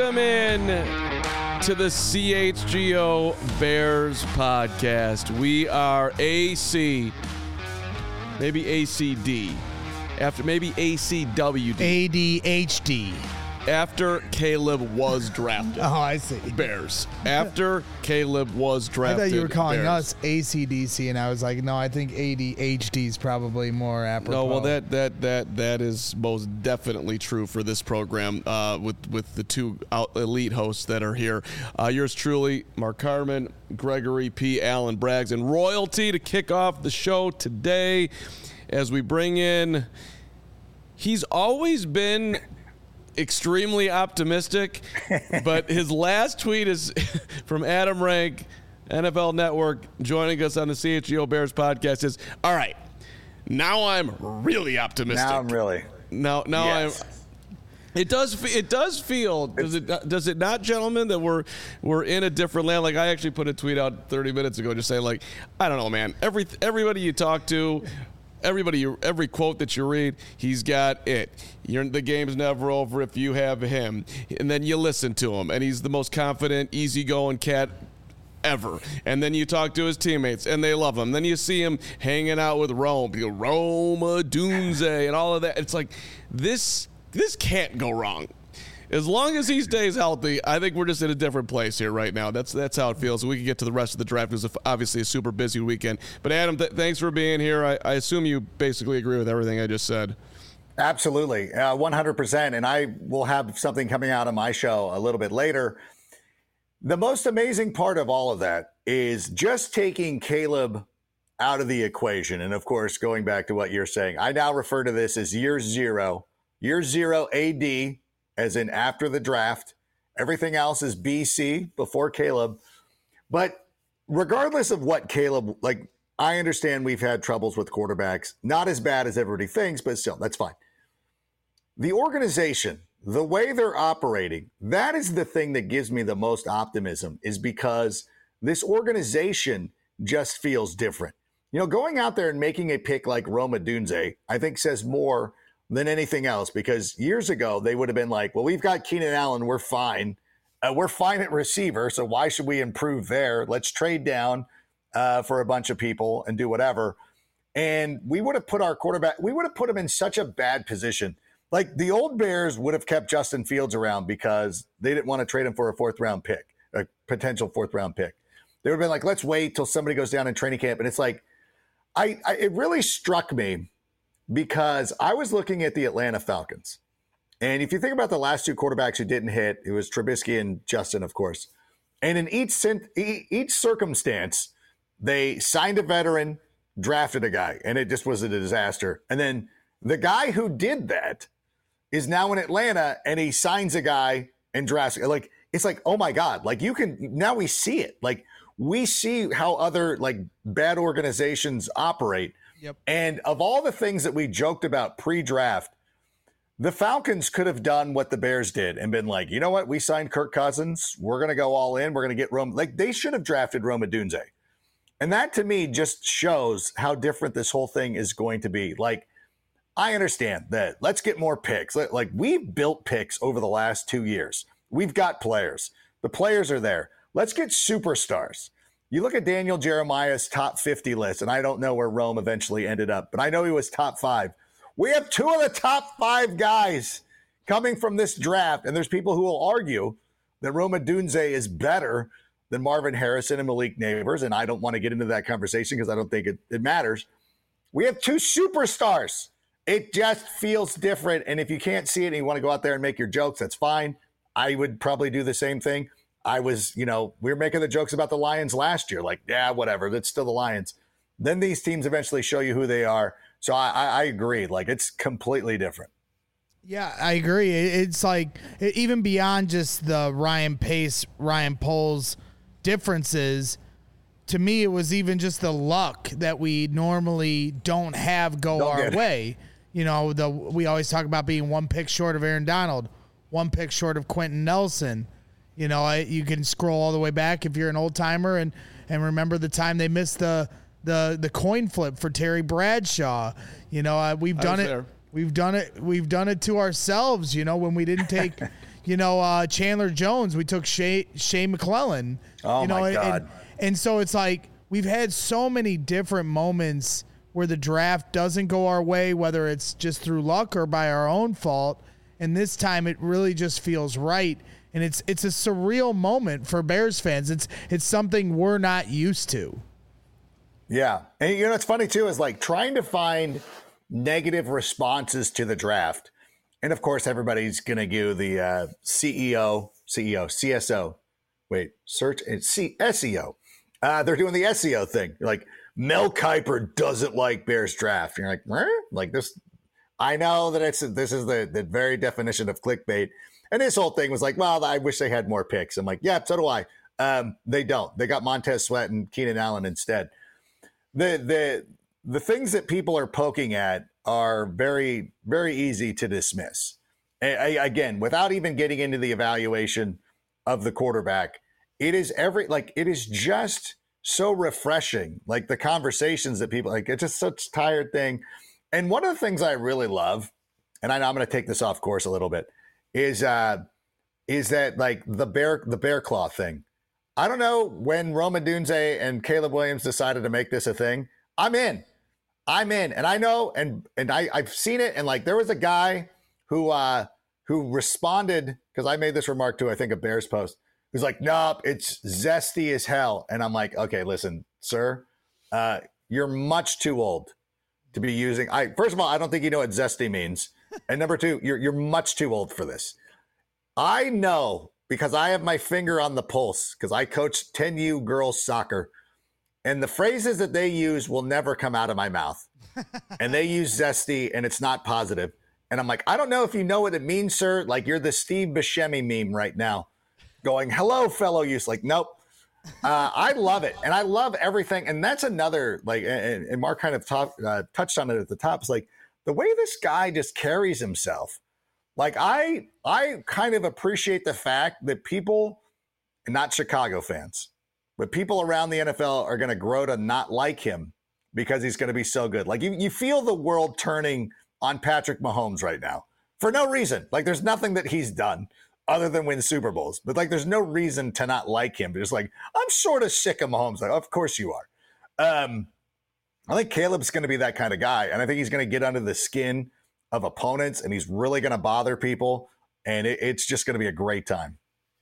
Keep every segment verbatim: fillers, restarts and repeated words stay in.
Welcome in to the C H G O Bears podcast. We are A C, maybe A C D, after maybe A C W D. A D H D. After Caleb was drafted. Oh, I see. Bears. After Caleb was drafted. I thought you were calling Bears. us A C D C, and I was like, no, I think A D H D is probably more apropos. No, well, that that that that is most definitely true for this program uh, with with the two out elite hosts that are here. Uh, yours truly, Mark Carman, Gregory P. Allen Braggs, and royalty to kick off the show today as we bring in. He's always been extremely optimistic, but his last tweet is from Adam Rank, N F L Network, joining us on the C H G O Bears podcast. Is all right. Now I'm really optimistic. Now I'm really. Now, now yes. I'm. It does. It does feel. Does it? Does it not, gentlemen? That we're we're in a different land. Like I actually put a tweet out thirty minutes ago, just saying, like, I don't know, man. Every everybody you talk to. Everybody, every quote that you read, he's got it. You're, the game's never over if you have him. And then you listen to him, and he's the most confident, easygoing cat ever. And then you talk to his teammates, and they love him. Then you see him hanging out with Rome, you know, Rome Odunze, and all of that. It's like, this this can't go wrong. As long as he stays healthy, I think we're just in a different place here right now. That's that's how it feels. We can get to the rest of the draft. It was obviously a super busy weekend. But, Adam, th- thanks for being here. I, I assume you basically agree with everything I just said. Absolutely, uh, one hundred percent. And I will have something coming out on my show a little bit later. The most amazing part of all of that is just taking Caleb out of the equation. And, of course, going back to what you're saying, I now refer to this as year zero. Year zero A D, as in after the draft. Everything else is B C, before Caleb. But regardless of what Caleb, like, I understand we've had troubles with quarterbacks. Not as bad as everybody thinks, but still, that's fine. The organization, the way they're operating, that is the thing that gives me the most optimism, is because this organization just feels different. You know, going out there and making a pick like Rome Odunze, I think says more than anything else, because years ago they would have been like, well, we've got Keenan Allen, we're fine. Uh, we're fine at receiver, so why should we improve there? Let's trade down uh, for a bunch of people and do whatever. And we would have put our quarterback, we would have put him in such a bad position. Like, the old Bears would have kept Justin Fields around because they didn't want to trade him for a fourth round pick, a potential fourth round pick. They would have been like, let's wait till somebody goes down in training camp. And it's like, I, I it really struck me, because I was looking at the Atlanta Falcons. And if you think about the last two quarterbacks who didn't hit, it was Trubisky and Justin, of course. And in each each circumstance, they signed a veteran, drafted a guy, and it just was a disaster. And then the guy who did that is now in Atlanta, and he signs a guy and drafts. Like, it's like, oh my God, like, you can, now we see it. Like, we see how other, like, bad organizations operate. Yep. And of all the things that we joked about pre-draft, the Falcons could have done what the Bears did and been like, you know what? We signed Kirk Cousins. We're going to go all in. We're going to get Rome. Like, they should have drafted Rome Odunze. And that, to me, just shows how different this whole thing is going to be. Like, I understand that. Let's get more picks. Like, we've built picks over the last two years. We've got players. The players are there. Let's get superstars. You look at Daniel Jeremiah's top fifty list, and I don't know where Rome eventually ended up, but I know he was top five. We have two of the top five guys coming from this draft, and there's people who will argue that Rome Odunze is better than Marvin Harrison and Malik Neighbors, and I don't want to get into that conversation because I don't think it, it matters. We have two superstars. It just feels different, and if you can't see it and you want to go out there and make your jokes, that's fine. I would probably do the same thing. I was, you know, we were making the jokes about the Lions last year. Like, yeah, whatever. That's still the Lions. Then these teams eventually show you who they are. So I, I, I agree. Like, it's completely different. Yeah, I agree. It's like, even beyond just the Ryan Pace, Ryan Poles differences, to me, it was even just the luck that we normally don't have go Don't our get. way. You know, the we always talk about being one pick short of Aaron Donald, one pick short of Quentin Nelson. You know, I, you can scroll all the way back if you're an old timer and, and remember the time they missed the the the coin flip for Terry Bradshaw. You know, uh, we've done it. There. We've done it. We've done it to ourselves. You know, when we didn't take, You know, uh, Chandler Jones, we took Shea, Shea McClellan. Oh, you know, my and, God. And, and so it's like we've had so many different moments where the draft doesn't go our way, whether it's just through luck or by our own fault. And this time it really just feels right. And it's it's a surreal moment for Bears fans. It's it's something we're not used to. Yeah. And you know, what's funny too is like trying to find negative responses to the draft. And of course, everybody's going to give the uh, C E O, C E O, C S O. Wait, search and C S E O. Uh, they're doing the S E O thing. You're like, Mel Kiper doesn't like Bears draft. You're like, where? Like this. I know that it's this is the, the very definition of clickbait. And this whole thing was like, well, I wish they had more picks. I'm like, yeah, so do I. Um, they don't. They got Montez Sweat and Keenan Allen instead. The the the things that people are poking at are very, very easy to dismiss. I, I, again, without even getting into the evaluation of the quarterback, it is every like it is just so refreshing. Like the conversations that people like, it's just such a tired thing. And one of the things I really love, and I know I'm going to take this off course a little bit, is uh, is that like the bear the bear claw thing. I don't know when Rome Odunze and Caleb Williams decided to make this a thing. I'm in. I'm in. And I know, and and I, I've seen it. And like there was a guy who uh, who responded, because I made this remark to, I think, a Bears post, who's like, nope, it's zesty as hell. And I'm like, okay, listen, sir, uh, you're much too old to be using. I first of all, I don't think you know what zesty means. And number two, you're you're much too old for this. I know because I have my finger on the pulse because I coach ten U girls soccer, and the phrases that they use will never come out of my mouth. And they use zesty, and it's not positive. And I'm like, I don't know if you know what it means, sir. Like you're the Steve Buscemi meme right now, going, "Hello, fellow youth." Like, nope. Uh, I love it, and I love everything. And that's another like, and, and Mark kind of talk, uh, touched on it at the top. It's like the way this guy just carries himself. Like I, I kind of appreciate the fact that people, and not Chicago fans, but people around the N F L are going to grow to not like him because he's going to be so good. Like you, you feel the world turning on Patrick Mahomes right now for no reason. Like there's nothing that he's done other than win Super Bowls. But like, there's no reason to not like him. But it's like, I'm sort of sick of Mahomes. Like, of course you are. Um, I think Caleb's going to be that kind of guy. And I think he's going to get under the skin of opponents and he's really going to bother people. And it, it's just going to be a great time.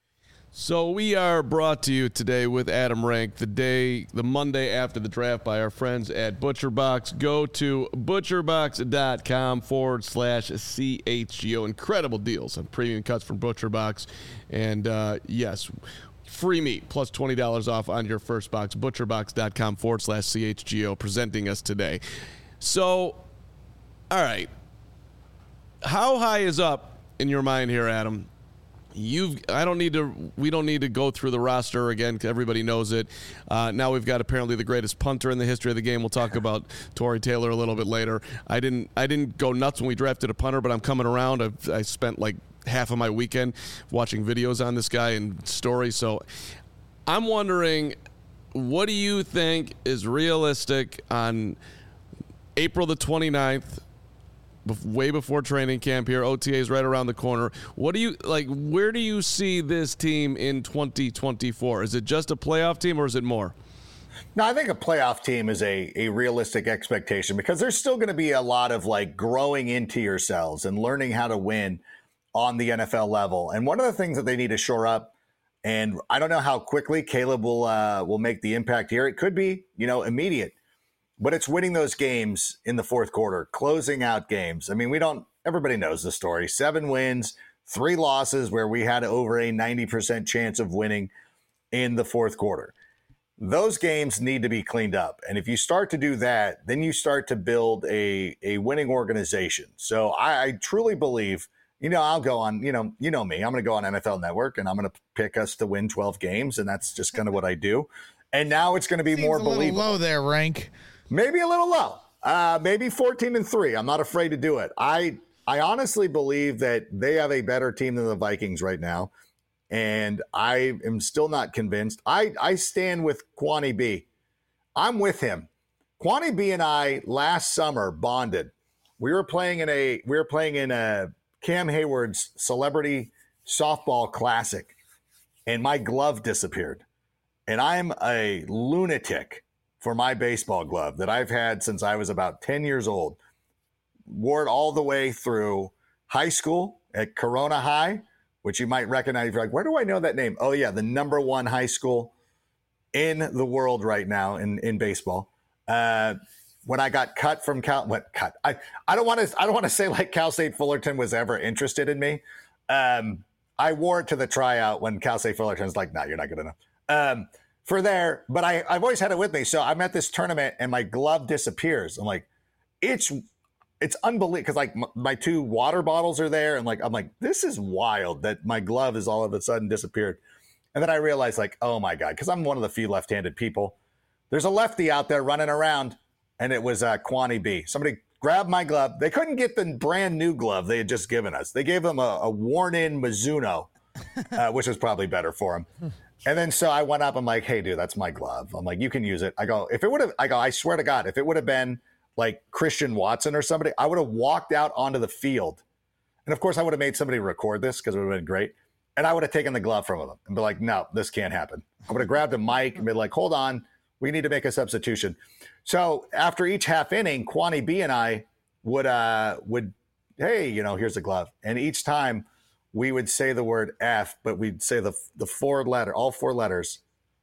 So we are brought to you today with Adam Rank, the day, the Monday after the draft by our friends at ButcherBox. Go to butcherbox.com forward slash CHGO. Incredible deals on premium cuts from ButcherBox. And uh, yes, free meat plus twenty dollars off on your first box. ButcherBox.com forward slash CHGO presenting us today. So, all right. How high is up in your mind here, Adam? You've. I don't need to. We don't need to go through the roster again. 'Cause everybody knows it. Uh, now we've got apparently the greatest punter in the history of the game. We'll talk about Torrey Taylor a little bit later. I didn't. I didn't go nuts when we drafted a punter, but I'm coming around. I've, I spent like half of my weekend watching videos on this guy and stories. So I'm wondering, what do you think is realistic on April the twenty-ninth? Way before training camp here, O T A is right around the corner. What do you like? Where do you see this team in twenty twenty-four? Is it just a playoff team or is it more? No, I think a playoff team is a, a realistic expectation because there's still going to be a lot of like growing into yourselves and learning how to win on the N F L level. And one of the things that they need to shore up, and I don't know how quickly Caleb will uh, will make the impact here. It could be, you know, immediate. But it's winning those games in the fourth quarter, closing out games. I mean, we don't, everybody knows the story. Seven wins, three losses where we had over a ninety percent chance of winning in the fourth quarter. Those games need to be cleaned up. And if you start to do that, then you start to build a, a winning organization. So I, I truly believe, you know, I'll go on, you know, you know me, I'm going to go on N F L Network and I'm going to pick us to win twelve games. And that's just kind of what I do. And now it's going to be Seems more a little believable. low there, Rank. Maybe a little low, uh, maybe fourteen and three. I'm not afraid to do it. I I honestly believe that they have a better team than the Vikings right now, and I am still not convinced. I I stand with Kwani B. I'm with him. Kwani B and I last summer bonded. We were playing in a we were playing in a Cam Hayward's celebrity softball classic, and my glove disappeared. And I'm a lunatic for my baseball glove that I've had since I was about ten years old. Wore it all the way through high school at Corona High, which you might recognize. You're like, where do I know that name? Oh, yeah, the number one high school in the world right now in, in baseball. Uh, when I got cut from Cal, what cut? I, I don't want to I don't want to say like Cal State Fullerton was ever interested in me. Um, I wore it to the tryout when Cal State Fullerton's like, no, nah, you're not good enough. Um, for there, but I, I've always had it with me. So I'm at this tournament and my glove disappears. I'm like, it's, it's unbelievable. Cause like m- my two water bottles are there. And like, I'm like, this is wild that my glove is all of a sudden disappeared. And then I realized like, oh my God, cause I'm one of the few left-handed people. There's a lefty out there running around and it was uh, Kwani B. Somebody grabbed my glove. They couldn't get the brand new glove they had just given us. They gave them a, a worn in Mizuno, uh, which was probably better for him. And then so I went up, I'm like, hey, dude, that's my glove. I'm like, you can use it. I go, if it would have, I go, I swear to God, if it would have been like Christian Watson or somebody, I would have walked out onto the field. And of course, I would have made somebody record this because it would have been great. And I would have taken the glove from them and be like, no, this can't happen. I would have grabbed a mic and been like, hold on, we need to make a substitution. So after each half inning, Kwani B and I would, uh, would, hey, you know, here's a glove. And each time, we would say the word F, but we'd say the the four letter, all four letters,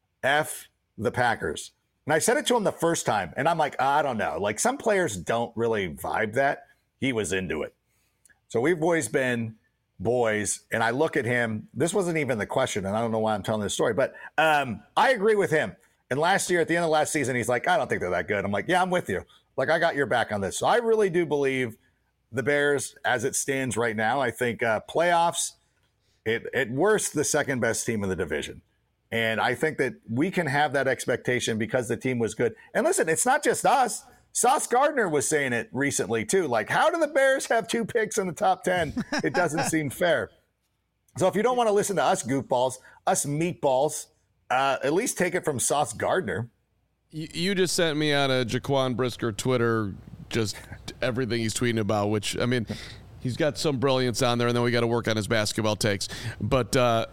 F the Packers. And I said it to him the first time, and I'm like, I don't know. Like some players don't really vibe that. He was into it. So we've always been boys, and I look at him. This wasn't even the question, and I don't know why I'm telling this story, but um, I agree with him. And last year, at the end of last season, he's like, I don't think they're that good. I'm like, yeah, I'm with you. Like, I got your back on this. So I really do believe the Bears, as it stands right now, I think uh, playoffs, it, at worst, the second best team in the division. And I think that we can have that expectation because the team was good. And listen, it's not just us. Sauce Gardner was saying it recently, too. Like, how do the Bears have two picks in the top ten? It doesn't seem fair. So if you don't want to listen to us goofballs, us meatballs, uh, at least take it from Sauce Gardner. You, you just sent me on a Jaquan Brisker Twitter just everything he's tweeting about, which, I mean, he's got some brilliance on there, and then we got to work on his basketball takes. But uh,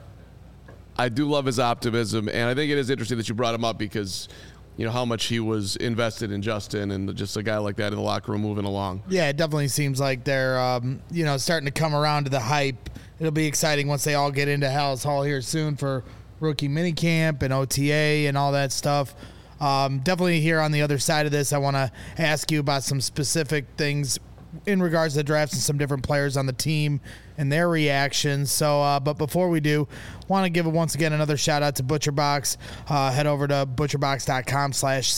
I do love his optimism, and I think it is interesting that you brought him up because, you know, how much he was invested in Justin and just a guy like that in the locker room moving along. Yeah, it definitely seems like they're, um, you know, starting to come around to the hype. It'll be exciting once they all get into Hallis Hall here soon for rookie minicamp and O T A and all that stuff. Um, definitely here on the other side of this, I want to ask you about some specific things in regards to the drafts and some different players on the team and their reactions. So, uh, but before we do, want to give once again another shout out to ButcherBox. Uh, head over to butcherbox.com slash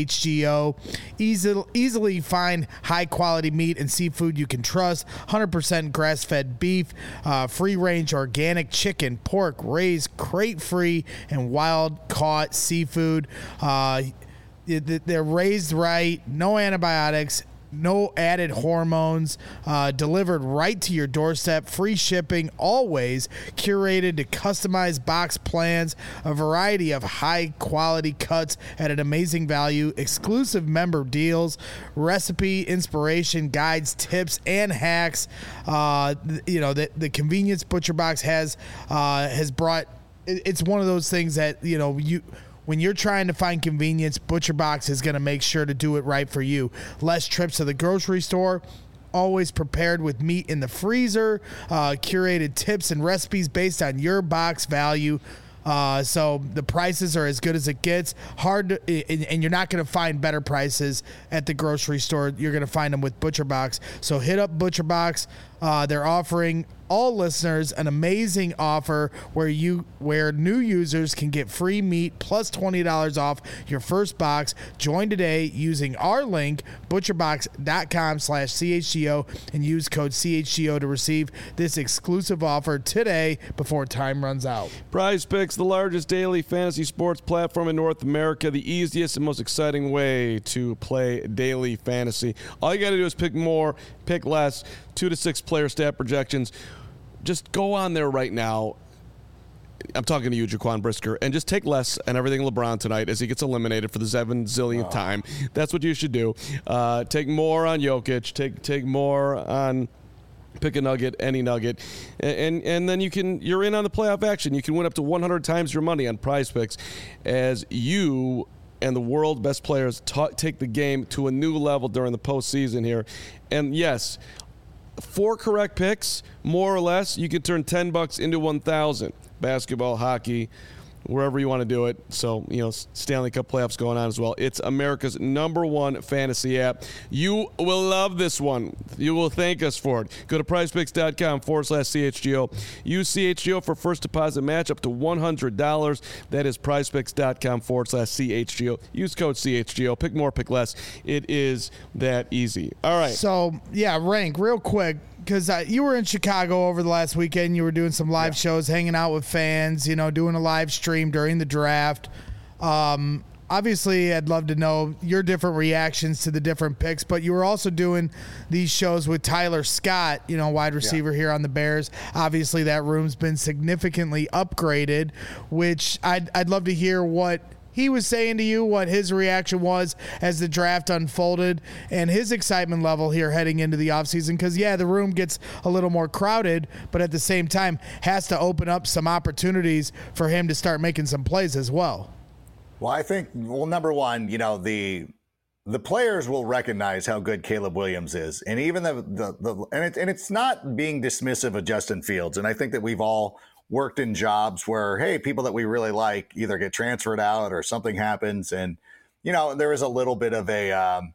CHGO. Easy, easily find high quality meat and seafood you can trust. one hundred percent grass fed beef, uh, free range organic chicken, pork, raised, crate free, and wild caught seafood. Uh, they're raised right, no antibiotics, no added hormones, uh, delivered right to your doorstep, free shipping, always curated to customized box plans, a variety of high quality cuts at an amazing value, exclusive member deals, recipe, inspiration, guides, tips, and hacks. Uh, you know, the, the convenience ButcherBox has, uh, has brought, it's one of those things that, you know, you, when you're trying to find convenience, ButcherBox is going to make sure to do it right for you. Less trips to the grocery store, always prepared with meat in the freezer, uh, curated tips and recipes based on your box value. Uh, so the prices are as good as it gets. Hard to, and, and you're not going to find better prices at the grocery store. You're going to find them with ButcherBox. So hit up ButcherBox. Uh, they're offering all listeners an amazing offer where you where new users can get free meat plus twenty dollars off your first box. Join today using our link, butcherbox.com slash CHGO, and use code C H G O to receive this exclusive offer today before time runs out. Prize Picks, the largest daily fantasy sports platform in North America, the easiest and most exciting way to play daily fantasy. All you got to do is pick more, pick less, two to six player stat projections. Just go on there right now. I'm talking to you, Jaquan Brisker, and just take less and everything LeBron tonight as he gets eliminated for the seven zillionth oh. time. That's what you should do. Uh, take more on Jokic. Take take more on Pick a nugget, any nugget, and, and and then you can you're in on the playoff action. You can win up to one hundred times your money on Prize Picks, as you and the world best players ta- take the game to a new level during the postseason here. And yes, four correct picks, more or less, you can turn ten bucks into one thousand. Basketball, hockey, wherever you want to do it. So, you know, Stanley Cup playoffs going on as well. It's America's number one fantasy app. You will love this one. You will thank us for it. Go to prizepicks.com forward slash CHGO. Use C H G O for first deposit match up to one hundred dollars. That is prizepicks.com forward slash CHGO. Use code C H G O. Pick more, pick less. It is that easy. All right. So, yeah, Rank, real quick. Because uh, you were in Chicago over the last weekend. You were doing some live yeah. shows, hanging out with fans, you know, doing a live stream during the draft. Um, obviously, I'd love to know your different reactions to the different picks, but you were also doing these shows with Tyler Scott, you know, wide receiver yeah. here on the Bears. Obviously, that room's been significantly upgraded, which I'd, I'd love to hear what he was saying to you, what his reaction was as the draft unfolded, and his excitement level here heading into the offseason. Because, yeah, the room gets a little more crowded, but at the same time has to open up some opportunities for him to start making some plays as well. Well, I think, well, number one, you know, the the players will recognize how good Caleb Williams is. And even the, the, the and, it, and it's not being dismissive of Justin Fields. And I think that we've all worked in jobs where, hey, people that we really like either get transferred out or something happens. And, you know, there is a little bit of a, um,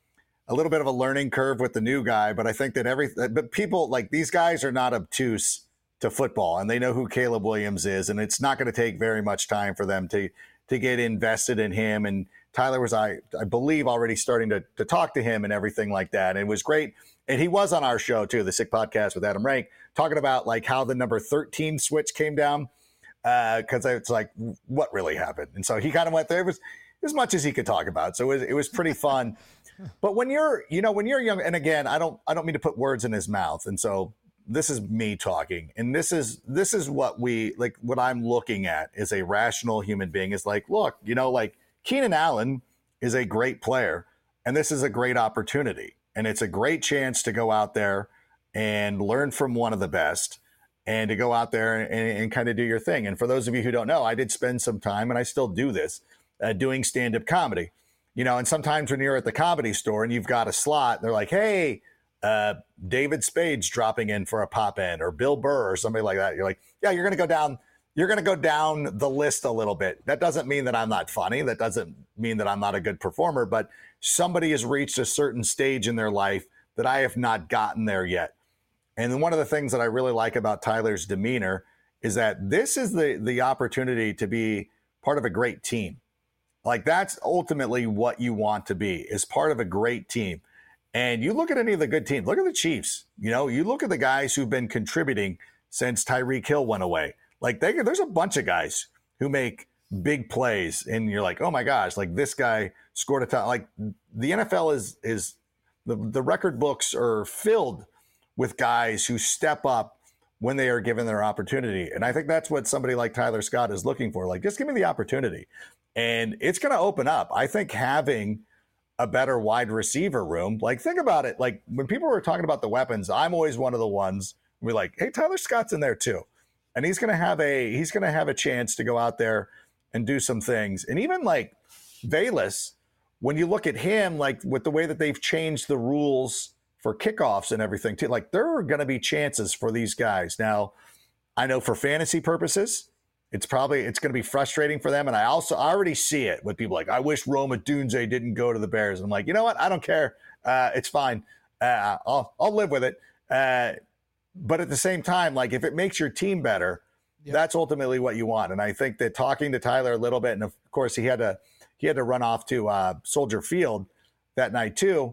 a little bit of a learning curve with the new guy. But I think that every, but people like these guys are not obtuse to football, and they know who Caleb Williams is. And it's not going to take very much time for them to, to get invested in him. And Tyler was, I, I believe, already starting to, to talk to him and everything like that. And it was great. And he was on our show too, the Sick Podcast with Adam Rank, talking about like how the number thirteen switch came down. Uh, cause it's like, what really happened? And so he kind of went there. It was as much as he could talk about. So it was, it was pretty fun. But when you're, you know, when you're young, and again, I don't, I don't mean to put words in his mouth. And so this is me talking, and this is, this is what we like, what I'm looking at is a rational human being is like, look, you know, like Keenan Allen is a great player, and this is a great opportunity. And it's a great chance to go out there and learn from one of the best, and to go out there and, and kind of do your thing. And for those of you who don't know, I did spend some time, and I still do this, uh, doing stand-up comedy. You know, and sometimes when you're at the Comedy Store and you've got a slot, they're like, hey, uh, David Spade's dropping in for a pop in, or Bill Burr or somebody like that. You're like, yeah, you're going to go down. You're going to go down the list a little bit. That doesn't mean that I'm not funny. That doesn't mean that I'm not a good performer, but somebody has reached a certain stage in their life that I have not gotten there yet. And one of the things that I really like about Tyler's demeanor is that this is the, the opportunity to be part of a great team. Like, that's ultimately what you want to be, is part of a great team. And you look at any of the good teams, look at the Chiefs. You know, you look at the guys who've been contributing since Tyreek Hill went away. Like, they, there's a bunch of guys who make big plays, and you're like, oh my gosh, like this guy scored a ton. Like, the N F L is, is the, the record books are filled with guys who step up when they are given their opportunity. And I think that's what somebody like Tyler Scott is looking for. Like, just give me the opportunity. And it's going to open up. I think having a better wide receiver room, like, think about it. Like, when people were talking about the weapons, I'm always one of the ones we're like, hey, Tyler Scott's in there too. And he's going to have a, he's going to have a chance to go out there and do some things. And even like Velus, when you look at him, like with the way that they've changed the rules for kickoffs and everything too, like there are going to be chances for these guys. Now, I know for fantasy purposes, it's probably, it's going to be frustrating for them. And I also I already see it with people like, I wish Rome Odunze didn't go to the Bears. I'm like, you know what? I don't care. Uh, it's fine. Uh, I'll, I'll live with it. Uh, but at the same time, like, if it makes your team better, yep, that's ultimately what you want. And I think that talking to Tyler a little bit, and of course he had to, he had to run off to uh, Soldier Field that night too,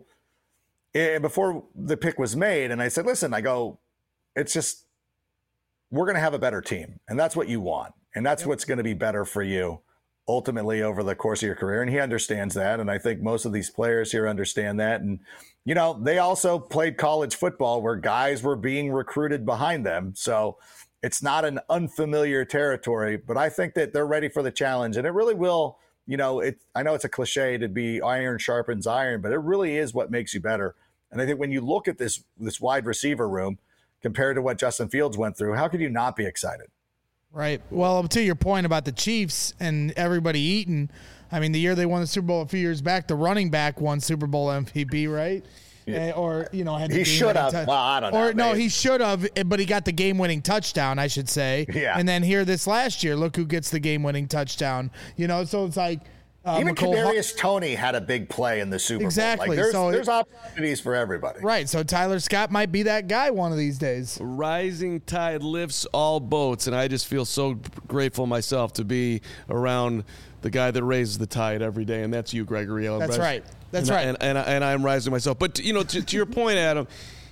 and before the pick was made. And I said, listen, I go, it's just, we're going to have a better team. And that's what you want. And that's yep, what's going to be better for you ultimately over the course of your career. And he understands that. And I think most of these players here understand that. And, you know, they also played college football where guys were being recruited behind them. So it's not an unfamiliar territory, but I think that they're ready for the challenge. And it really will, you know, it, I know it's a cliche to be iron sharpens iron, but it really is what makes you better. And I think when you look at this, this wide receiver room, compared to what Justin Fields went through, how could you not be excited? Right. Well, to your point about the Chiefs and everybody eating, I mean, the year they won the Super Bowl a few years back, the running back won Super Bowl M V P, right? Yeah. Uh, or, you know, had the he should have. T- well, I don't know. Or, no, man. he should have, but he got the game-winning touchdown, I should say. Yeah. And then here this last year, look who gets the game-winning touchdown. You know, so it's like. Uh, Even McCole Kadarius H- Toney had a big play in the Super Bowl. Exactly. Like, there's, so there's it, opportunities for everybody. Right. So Tyler Scott might be that guy one of these days. Rising tide lifts all boats, and I just feel so grateful myself to be around the guy that raises the tide every day, and that's you, Gregory. That's Rise- right. That's and right. I, and, and, I, and I'm rising myself. But, you know, to, to your point, Adam,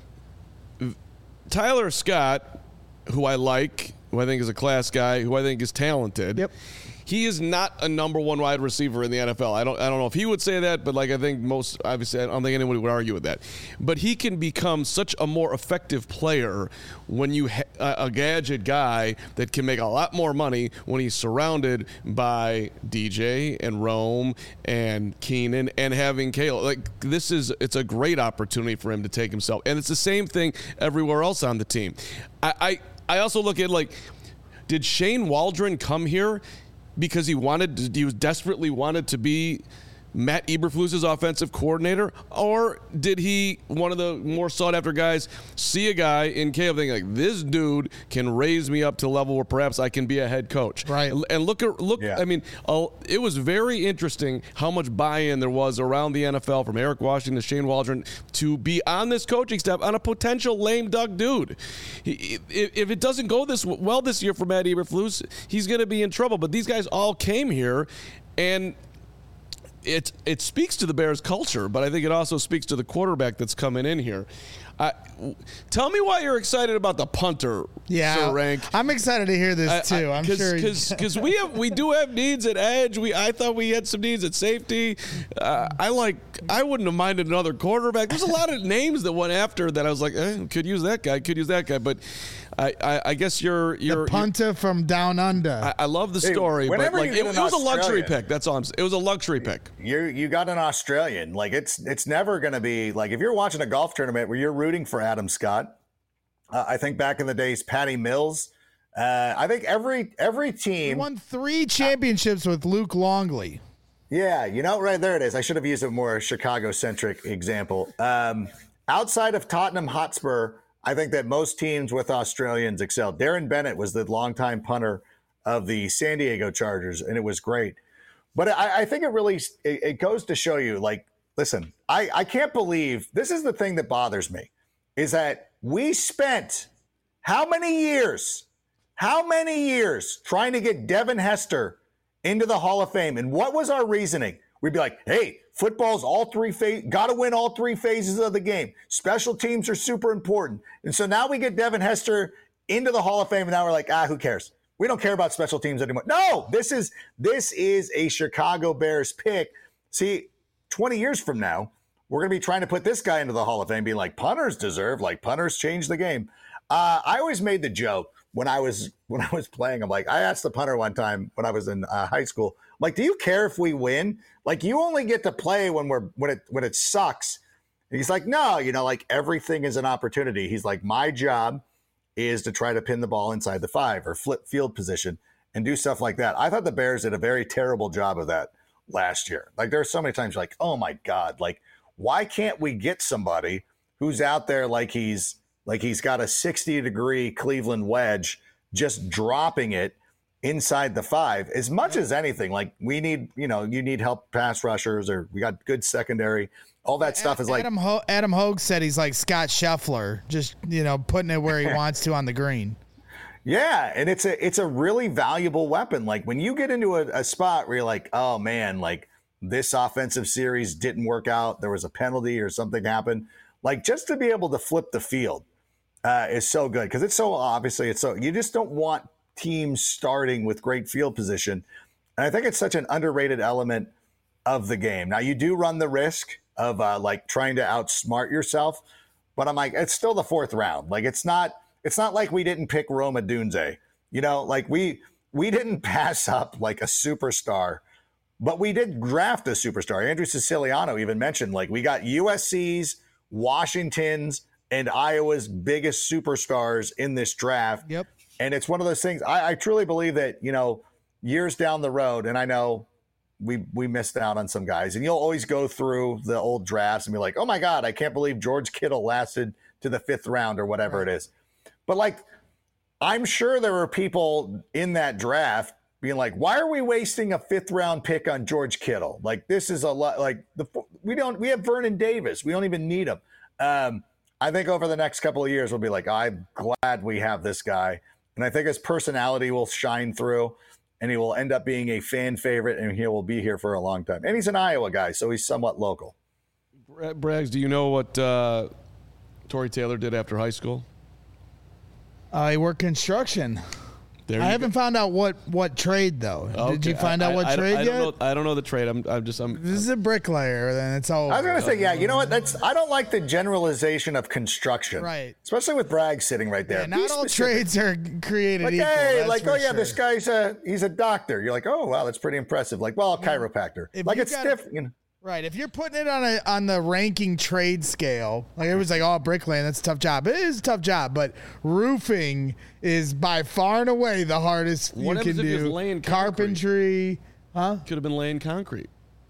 Tyler Scott, who I like, who I think is a class guy, who I think is talented. Yep. He is not a number one wide receiver in the N F L. I don't I don't know if he would say that, but like I think most obviously I don't think anyone would argue with that. But he can become such a more effective player when you ha- a gadget guy that can make a lot more money when he's surrounded by D J and Rome and Keenan and having Caleb. Like this is it's a great opportunity for him to take himself. And it's the same thing everywhere else on the team. I I, I also look at like did Shane Waldron come here because he wanted, he was desperately wanted to be Matt Eberflus's offensive coordinator, or did he, one of the more sought-after guys, see a guy in Caleb thinking like, this dude can raise me up to a level where perhaps I can be a head coach? Right. And look at look. Yeah. I mean, uh, it was very interesting how much buy-in there was around the N F L from Eric Washington to Shane Waldron to be on this coaching staff on a potential lame duck dude. He, if, if it doesn't go this well this year for Matt Eberflus, he's going to be in trouble. But these guys all came here, and It it speaks to the Bears culture, but I think it also speaks to the quarterback that's coming in here. Uh, tell me why you're excited about the punter, Yeah, Sir Rank. I'm excited to hear this too. I, I'm Cause, sure because we have we do have needs at edge. We I thought we had some needs at safety. Uh, I like I wouldn't have minded another quarterback. There's a lot of names that went after that. I was like, eh, could use that guy, could use that guy. But I, I, I guess you're you're the punter you're, from down under. I, I love the Hey, story, but whenever like you it, get it an was a luxury Australian- pick. That's all I'm saying. It was a luxury pick. You you got an Australian. Like it's it's never going to be like if you're watching a golf tournament where you're rooting for Adam Scott. Uh, I think back in the days, Patty Mills. Uh, I think every every he team won three championships with Luke Longley. Yeah, you know, right there it is. I should have used a more Chicago-centric example. Um, outside of Tottenham Hotspur, I think that most teams with Australians excel. Darren Bennett was the longtime punter of the San Diego Chargers, and it was great. But I, I think it really it, it goes to show you, like, listen, I, I can't believe this is the thing that bothers me, is that we spent how many years, how many years trying to get Devin Hester into the Hall of Fame. And what was our reasoning? We'd be like, hey, football's all three phases, got to win all three phases of the game. Special teams are super important. And so now we get Devin Hester into the Hall of Fame, and now we're like, ah, who cares? We don't care about special teams anymore. No, this is this is a Chicago Bears pick. See, twenty years from now, we're going to be trying to put this guy into the Hall of Fame, being like, punters deserve, like punters change the game. Uh, I always made the joke when I was when I was playing. I'm like, I asked the punter one time when I was in uh, high school, I'm like, do you care if we win? Like, you only get to play when we're when it when it sucks. And he's like, no, you know, like everything is an opportunity. He's like, my job is to try to pin the ball inside the five or flip field position and do stuff like that. I thought the Bears did a very terrible job of that last year. Like, there are so many times like, oh my God, like, why can't we get somebody who's out there like he's like he's got a sixty degree Cleveland wedge, just dropping it inside the five as much as anything? Like, we need, you know, you need help pass rushers, or we got good secondary. All that stuff is like Adam Ho- Adam Hogue said he's like Scott Scheffler, just, you know, putting it where he wants to on the green. Yeah, and it's a it's a really valuable weapon. Like, when you get into a, a spot where you're like, oh man, like this offensive series didn't work out, there was a penalty or something happened, like, just to be able to flip the field uh, is so good, because it's so obviously it's so you just don't want teams starting with great field position, and I think it's such an underrated element of the game. Now, you do run the risk of uh, like trying to outsmart yourself, but I'm like, it's still the fourth round. Like, it's not it's not like we didn't pick Rome Odunze, you know, like we we didn't pass up like a superstar. But we did draft a superstar. Andrew Siciliano even mentioned, like, we got U S C's, Washington's, and Iowa's biggest superstars in this draft. Yep. And it's one of those things. I, I truly believe that, you know, years down the road, and I know we we missed out on some guys, and you'll always go through the old drafts and be like, oh my God, I can't believe George Kittle lasted to the fifth round or whatever right. it is. But like, I'm sure there were people in that draft being like, why are we wasting a fifth round pick on George Kittle? Like, this is a lot. Like, the we don't we have Vernon Davis. We don't even need him. Um, I think over the next couple of years, we'll be like, I'm glad we have this guy. And I think his personality will shine through, and he will end up being a fan favorite, and he will be here for a long time. And he's an Iowa guy, so he's somewhat local. Braggs, do you know what uh, Tory Taylor did after high school? Uh, he worked construction. There I haven't go. found out what, what trade though. Okay. Did you find I, out what I, trade I, I yet? don't know, I don't know the trade. I'm, I'm just. I'm. This is a bricklayer. Then it's all. I was gonna say, yeah. You know what? That's. I don't like the generalization of construction, right? Especially with Bragg sitting right there. Yeah, not all trades are created like, equal. Hey, like, oh yeah, sure. this guy's a he's a doctor. You're like, oh wow, that's pretty impressive. Like, well, a chiropractor. If like it's got, stiff. You know. Right. If you're putting it on a on the ranking trade scale, like it was like, oh, bricklaying, that's a tough job. It is a tough job, but roofing is by far and away the hardest what you can if do. Laying Carpentry, huh? Could have been laying concrete.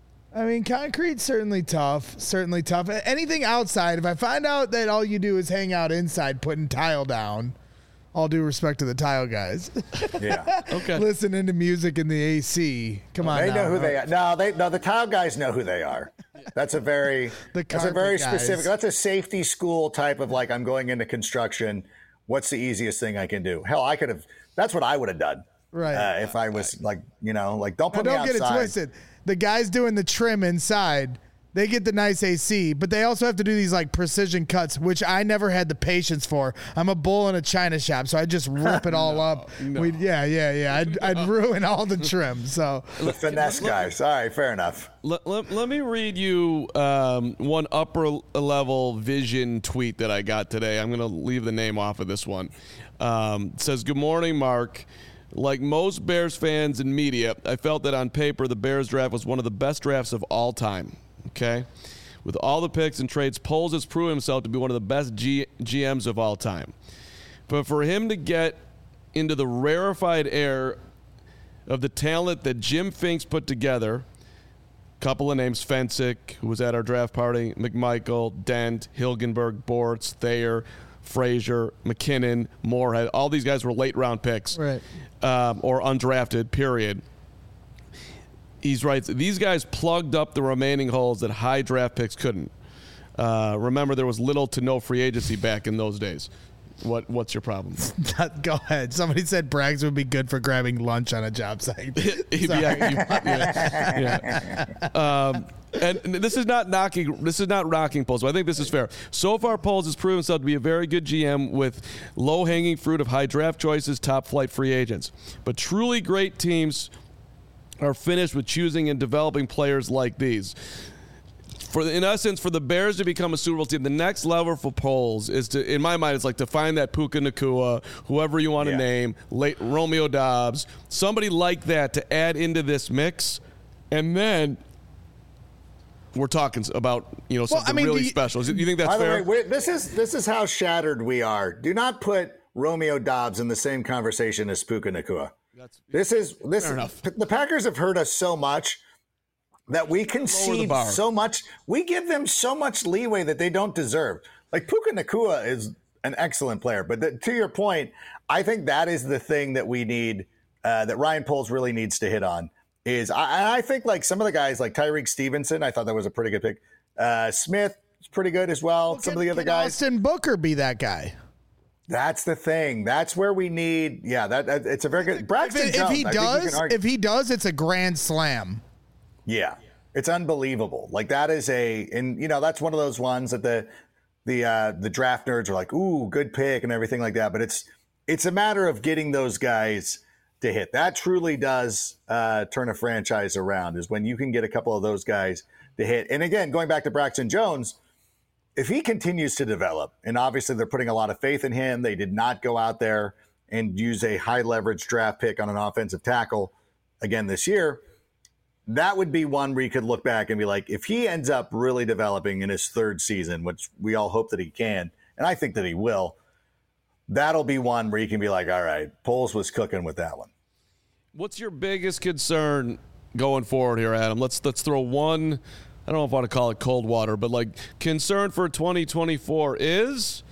I mean, concrete's certainly tough. Certainly tough. Anything outside, if I find out that all you do is hang out inside putting tile down, all due respect to the tile guys. Yeah. Okay. Listening to music in the A C. Come on. They now, know who right? they are. No, they no. The tile guys know who they are. That's a very. The that's a very guys. specific. That's a safety school type of like, I'm going into construction. What's the easiest thing I can do? Hell, I could have. That's what I would have done. Right. Uh, if I was like, you know, like don't put now, me don't outside. get it twisted. The guys doing the trim inside, they get the nice A C, but they also have to do these like precision cuts, which I never had the patience for. I'm a bull in a china shop, so I just rip it all no, up. No. We'd, yeah, yeah, yeah. I'd, I'd ruin all the trim. So The finesse guys. All right, fair enough. Let, let, let me read you um, one upper level vision tweet that I got today. I'm going to leave the name off of this one. Um, it says, good morning, Mark. Like most Bears fans and media, I felt that on paper the Bears draft was one of the best drafts of all time. Okay? With all the picks and trades, Poles has proven himself to be one of the best G- GMs of all time. But for him to get into the rarefied air of the talent that Jim Finks put together, couple of names, Fensick, who was at our draft party, McMichael, Dent, Hilgenberg, Bortz, Thayer, Frazier, McKinnon, Moorhead, all these guys were late round picks, right, um, or undrafted, period. He's right. These guys plugged up the remaining holes that high draft picks couldn't. Uh, remember, there was little to no free agency back in those days. What What's your problem? Go ahead. Somebody said Braggs would be good for grabbing lunch on a job site. yeah, you, yeah, yeah. Um, and this is not knocking. This is not rocking Poles. But I think this is fair. So far, Poles has proven himself to be a very good G M with low-hanging fruit of high draft choices, top-flight free agents. But truly great teams are finished with choosing and developing players like these. For in essence, for the Bears to become a Super Bowl team, the next level for Poles is to, in my mind, it's like to find that Puka Nacua, whoever you want to yeah. name, late Romeo Dobbs, somebody like that to add into this mix, and then we're talking about you know something well, I mean, really you, special. Do you think that's By the fair? way, we're, this is this is how shattered we are. Do not put Romeo Dobbs in the same conversation as Puka Nacua. That's, this is this. Fair enough. The Packers have hurt us so much that we concede so much. We give them so much leeway that they don't deserve. Like Puka Nacua is an excellent player, but the, to your point, I think that is the thing that we need, uh, that Ryan Poles really needs to hit on. Is I, I think like some of the guys like Tyreek Stevenson, I thought that was a pretty good pick. Uh, Smith is pretty good as well. well some can, of the other can guys. Austin Booker be that guy? That's the thing. That's where we need. Yeah, that, that it's a very good. Braxton if, it, Jones, if he I think you does, can argue- if he does, it's a grand slam. Yeah, it's unbelievable. Like that is a, and you know that's one of those ones that the the uh, the draft nerds are like, ooh, good pick and everything like that. But it's it's a matter of getting those guys to hit. That truly does uh, turn a franchise around. Is when you can get a couple of those guys to hit. And again, going back to Braxton Jones, if he continues to develop, and obviously they're putting a lot of faith in him, they did not go out there and use a high leverage draft pick on an offensive tackle again this year. That would be one where you could look back and be like, if he ends up really developing in his third season, which we all hope that he can, and I think that he will, that'll be one where you can be like, all right, Poles was cooking with that one. What's your biggest concern going forward here, Adam? Let's let's throw one, I don't know if I want to call it cold water, but like concern for twenty twenty-four is?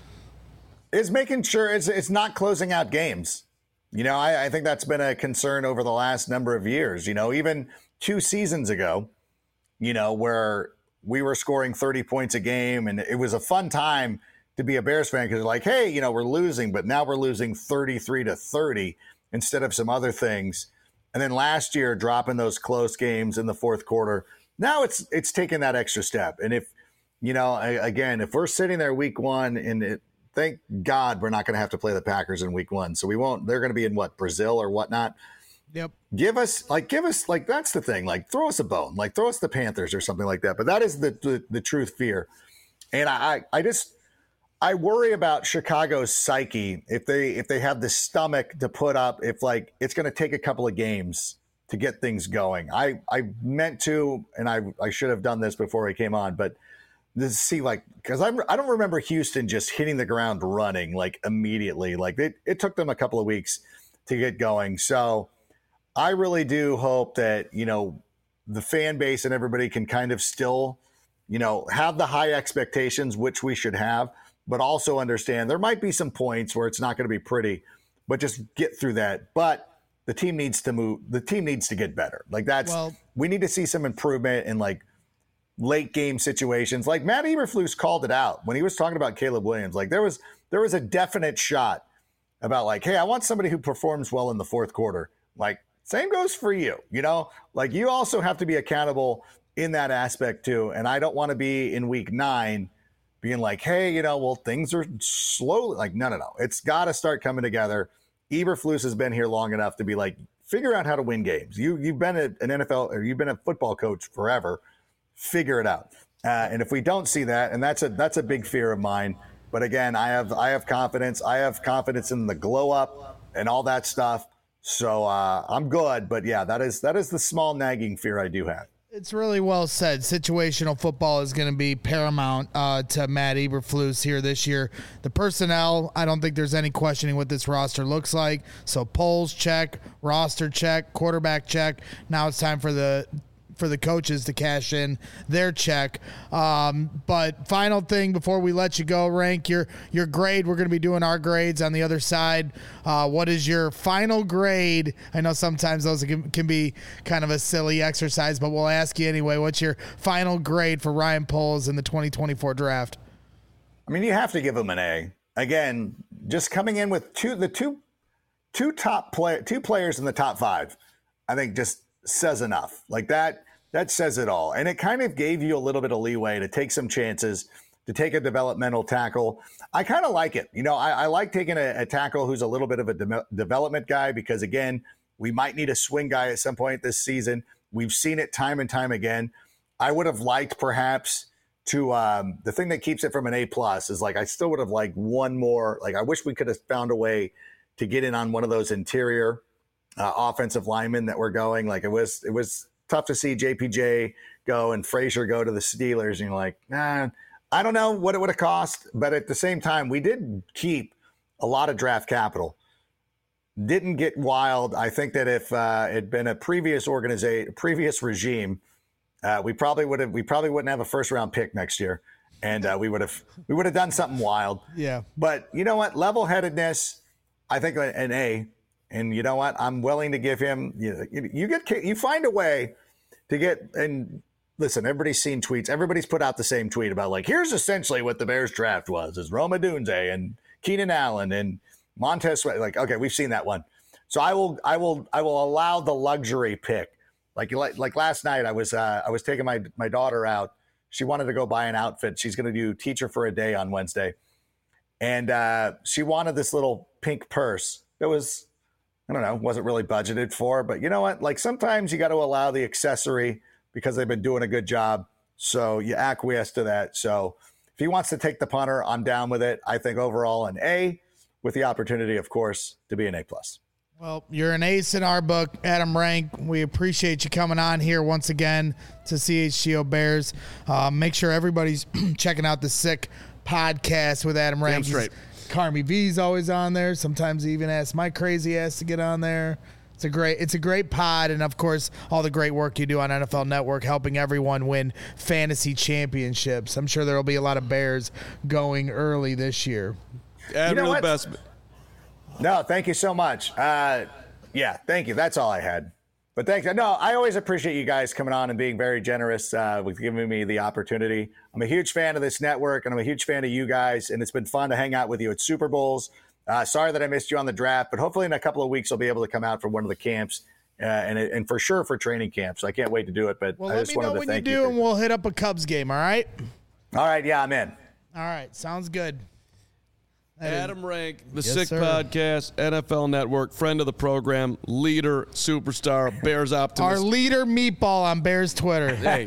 Is making sure it's, it's not closing out games. You know, I, I think that's been a concern over the last number of years. You know, even two seasons ago, you know, where we were scoring thirty points a game, and it was a fun time to be a Bears fan because like, hey, you know, we're losing, but now we're losing thirty-three to thirty instead of some other things. And then last year, dropping those close games in the fourth quarter. Now it's it's taking that extra step. And if, you know, I, again, if we're sitting there week one and it, thank God we're not going to have to play the Packers in week one. So we won't, they're going to be in what, Brazil or whatnot. Yep. Give us like, give us like, that's the thing. Like throw us a bone, like throw us the Panthers or something like that. But that is the, the, the truth fear. And I, I just, I worry about Chicago's psyche. If they, if they have the stomach to put up, if like, it's going to take a couple of games to get things going. I, I meant to, and I, I should have done this before he came on, but to see like, because I'm I don't remember Houston just hitting the ground running like immediately. Like it, it took them a couple of weeks to get going. So I really do hope that, you know, the fan base and everybody can kind of still, you know, have the high expectations, which we should have, but also understand there might be some points where it's not going to be pretty, but just get through that. But the team needs to move. The team needs to get better. Like that's, well, we need to see some improvement in like late game situations. Like Matt Eberflus called it out when he was talking about Caleb Williams. Like there was, there was a definite shot about like, hey, I want somebody who performs well in the fourth quarter. Like same goes for you, you know, like you also have to be accountable in that aspect too. And I don't want to be in week nine being like, hey, you know, well, things are slowly like, no, no, no, it's got to start coming together. Eberflus has been here long enough to be like, figure out how to win games. You, you've been a, an N F L or you've been a football coach forever. Figure it out. Uh, and if we don't see that, and that's a that's a big fear of mine. But again, I have I have confidence. I have confidence in the glow up and all that stuff. So uh, I'm good. But yeah, that is that is the small nagging fear I do have. It's really well said. Situational football is going to be paramount uh, to Matt Eberflus here this year. The personnel, I don't think there's any questioning what this roster looks like. So Poles check, roster check, quarterback check. Now it's time for the for the coaches to cash in their check. Um, but final thing before we let you go, rank your your grade. We're going to be doing our grades on the other side. Uh, what is your final grade? I know sometimes those can, can be kind of a silly exercise, but we'll ask you anyway. What's your final grade for Ryan Poles in the twenty twenty-four draft? I mean, you have to give him an A. Again, just coming in with two the two two top play two players in the top five, I think just says enough. Like that. That says it all. And it kind of gave you a little bit of leeway to take some chances, to take a developmental tackle. I kind of like it. You know, I, I like taking a, a tackle who's a little bit of a de- development guy because, again, we might need a swing guy at some point this season. We've seen it time and time again. I would have liked perhaps to um, – the thing that keeps it from an A plus is like I still would have liked one more. Like I wish we could have found a way to get in on one of those interior uh, offensive linemen that were going. Like it was it was – tough to see J P J go and Frazier go to the Steelers. And you're like, nah, I don't know what it would have cost. But at the same time, we did keep a lot of draft capital. Didn't get wild. I think that if uh, it had been a previous organization, previous regime, uh, we probably would have, we probably wouldn't have a first round pick next year. And uh, we would have, we would have done something wild. Yeah. But you know what? Level-headedness, I think an A. And you know what? I'm willing to give him, you know, you, you get, you find a way to get, and listen, everybody's seen tweets. Everybody's put out the same tweet about like, here's essentially what the Bears draft was, is Rome Odunze and Keenan Allen and Montez Sweat. Like, okay, we've seen that one. So I will, I will, I will allow the luxury pick. Like, like, like last night I was, uh, I was taking my, my daughter out. She wanted to go buy an outfit. She's going to do teacher for a day on Wednesday. And uh, she wanted this little pink purse. It was, I don't know, wasn't really budgeted for, but you know what? Like sometimes you got to allow the accessory because they've been doing a good job. So you acquiesce to that. So if he wants to take the punter, I'm down with it. I think overall an A with the opportunity, of course, to be an A plus. Well, you're an ace in our book, Adam Rank. We appreciate you coming on here once again to C H G O Bears. Uh, make sure everybody's checking out the Sick podcast with Adam Rank. Damn straight. Carmi V's always on there. Sometimes he even asks my crazy ass to get on there. It's a great, it's a great pod, and of course, all the great work you do on N F L Network, helping everyone win fantasy championships. I'm sure there will be a lot of Bears going early this year. Adam, You know you're the what? best. No, thank you so much. Uh, yeah, thank you. That's all I had. But thanks. No, I always appreciate you guys coming on and being very generous uh, with giving me the opportunity. I'm a huge fan of this network, and I'm a huge fan of you guys, and it's been fun to hang out with you at Super Bowls. Uh, sorry that I missed you on the draft, but hopefully in a couple of weeks I'll be able to come out for one of the camps, uh, and and for sure for training camps. I can't wait to do it. But Well, I let just me know wanted to when you thank do, you. and we'll hit up a Cubs game, all right? All right, yeah, I'm in. All right, sounds good. That is- Adam Rank, the Yes, Sick sir. Podcast, N F L Network, friend of the program, leader, superstar, Bears Our optimist. leader meatball on Bears Twitter. Hey,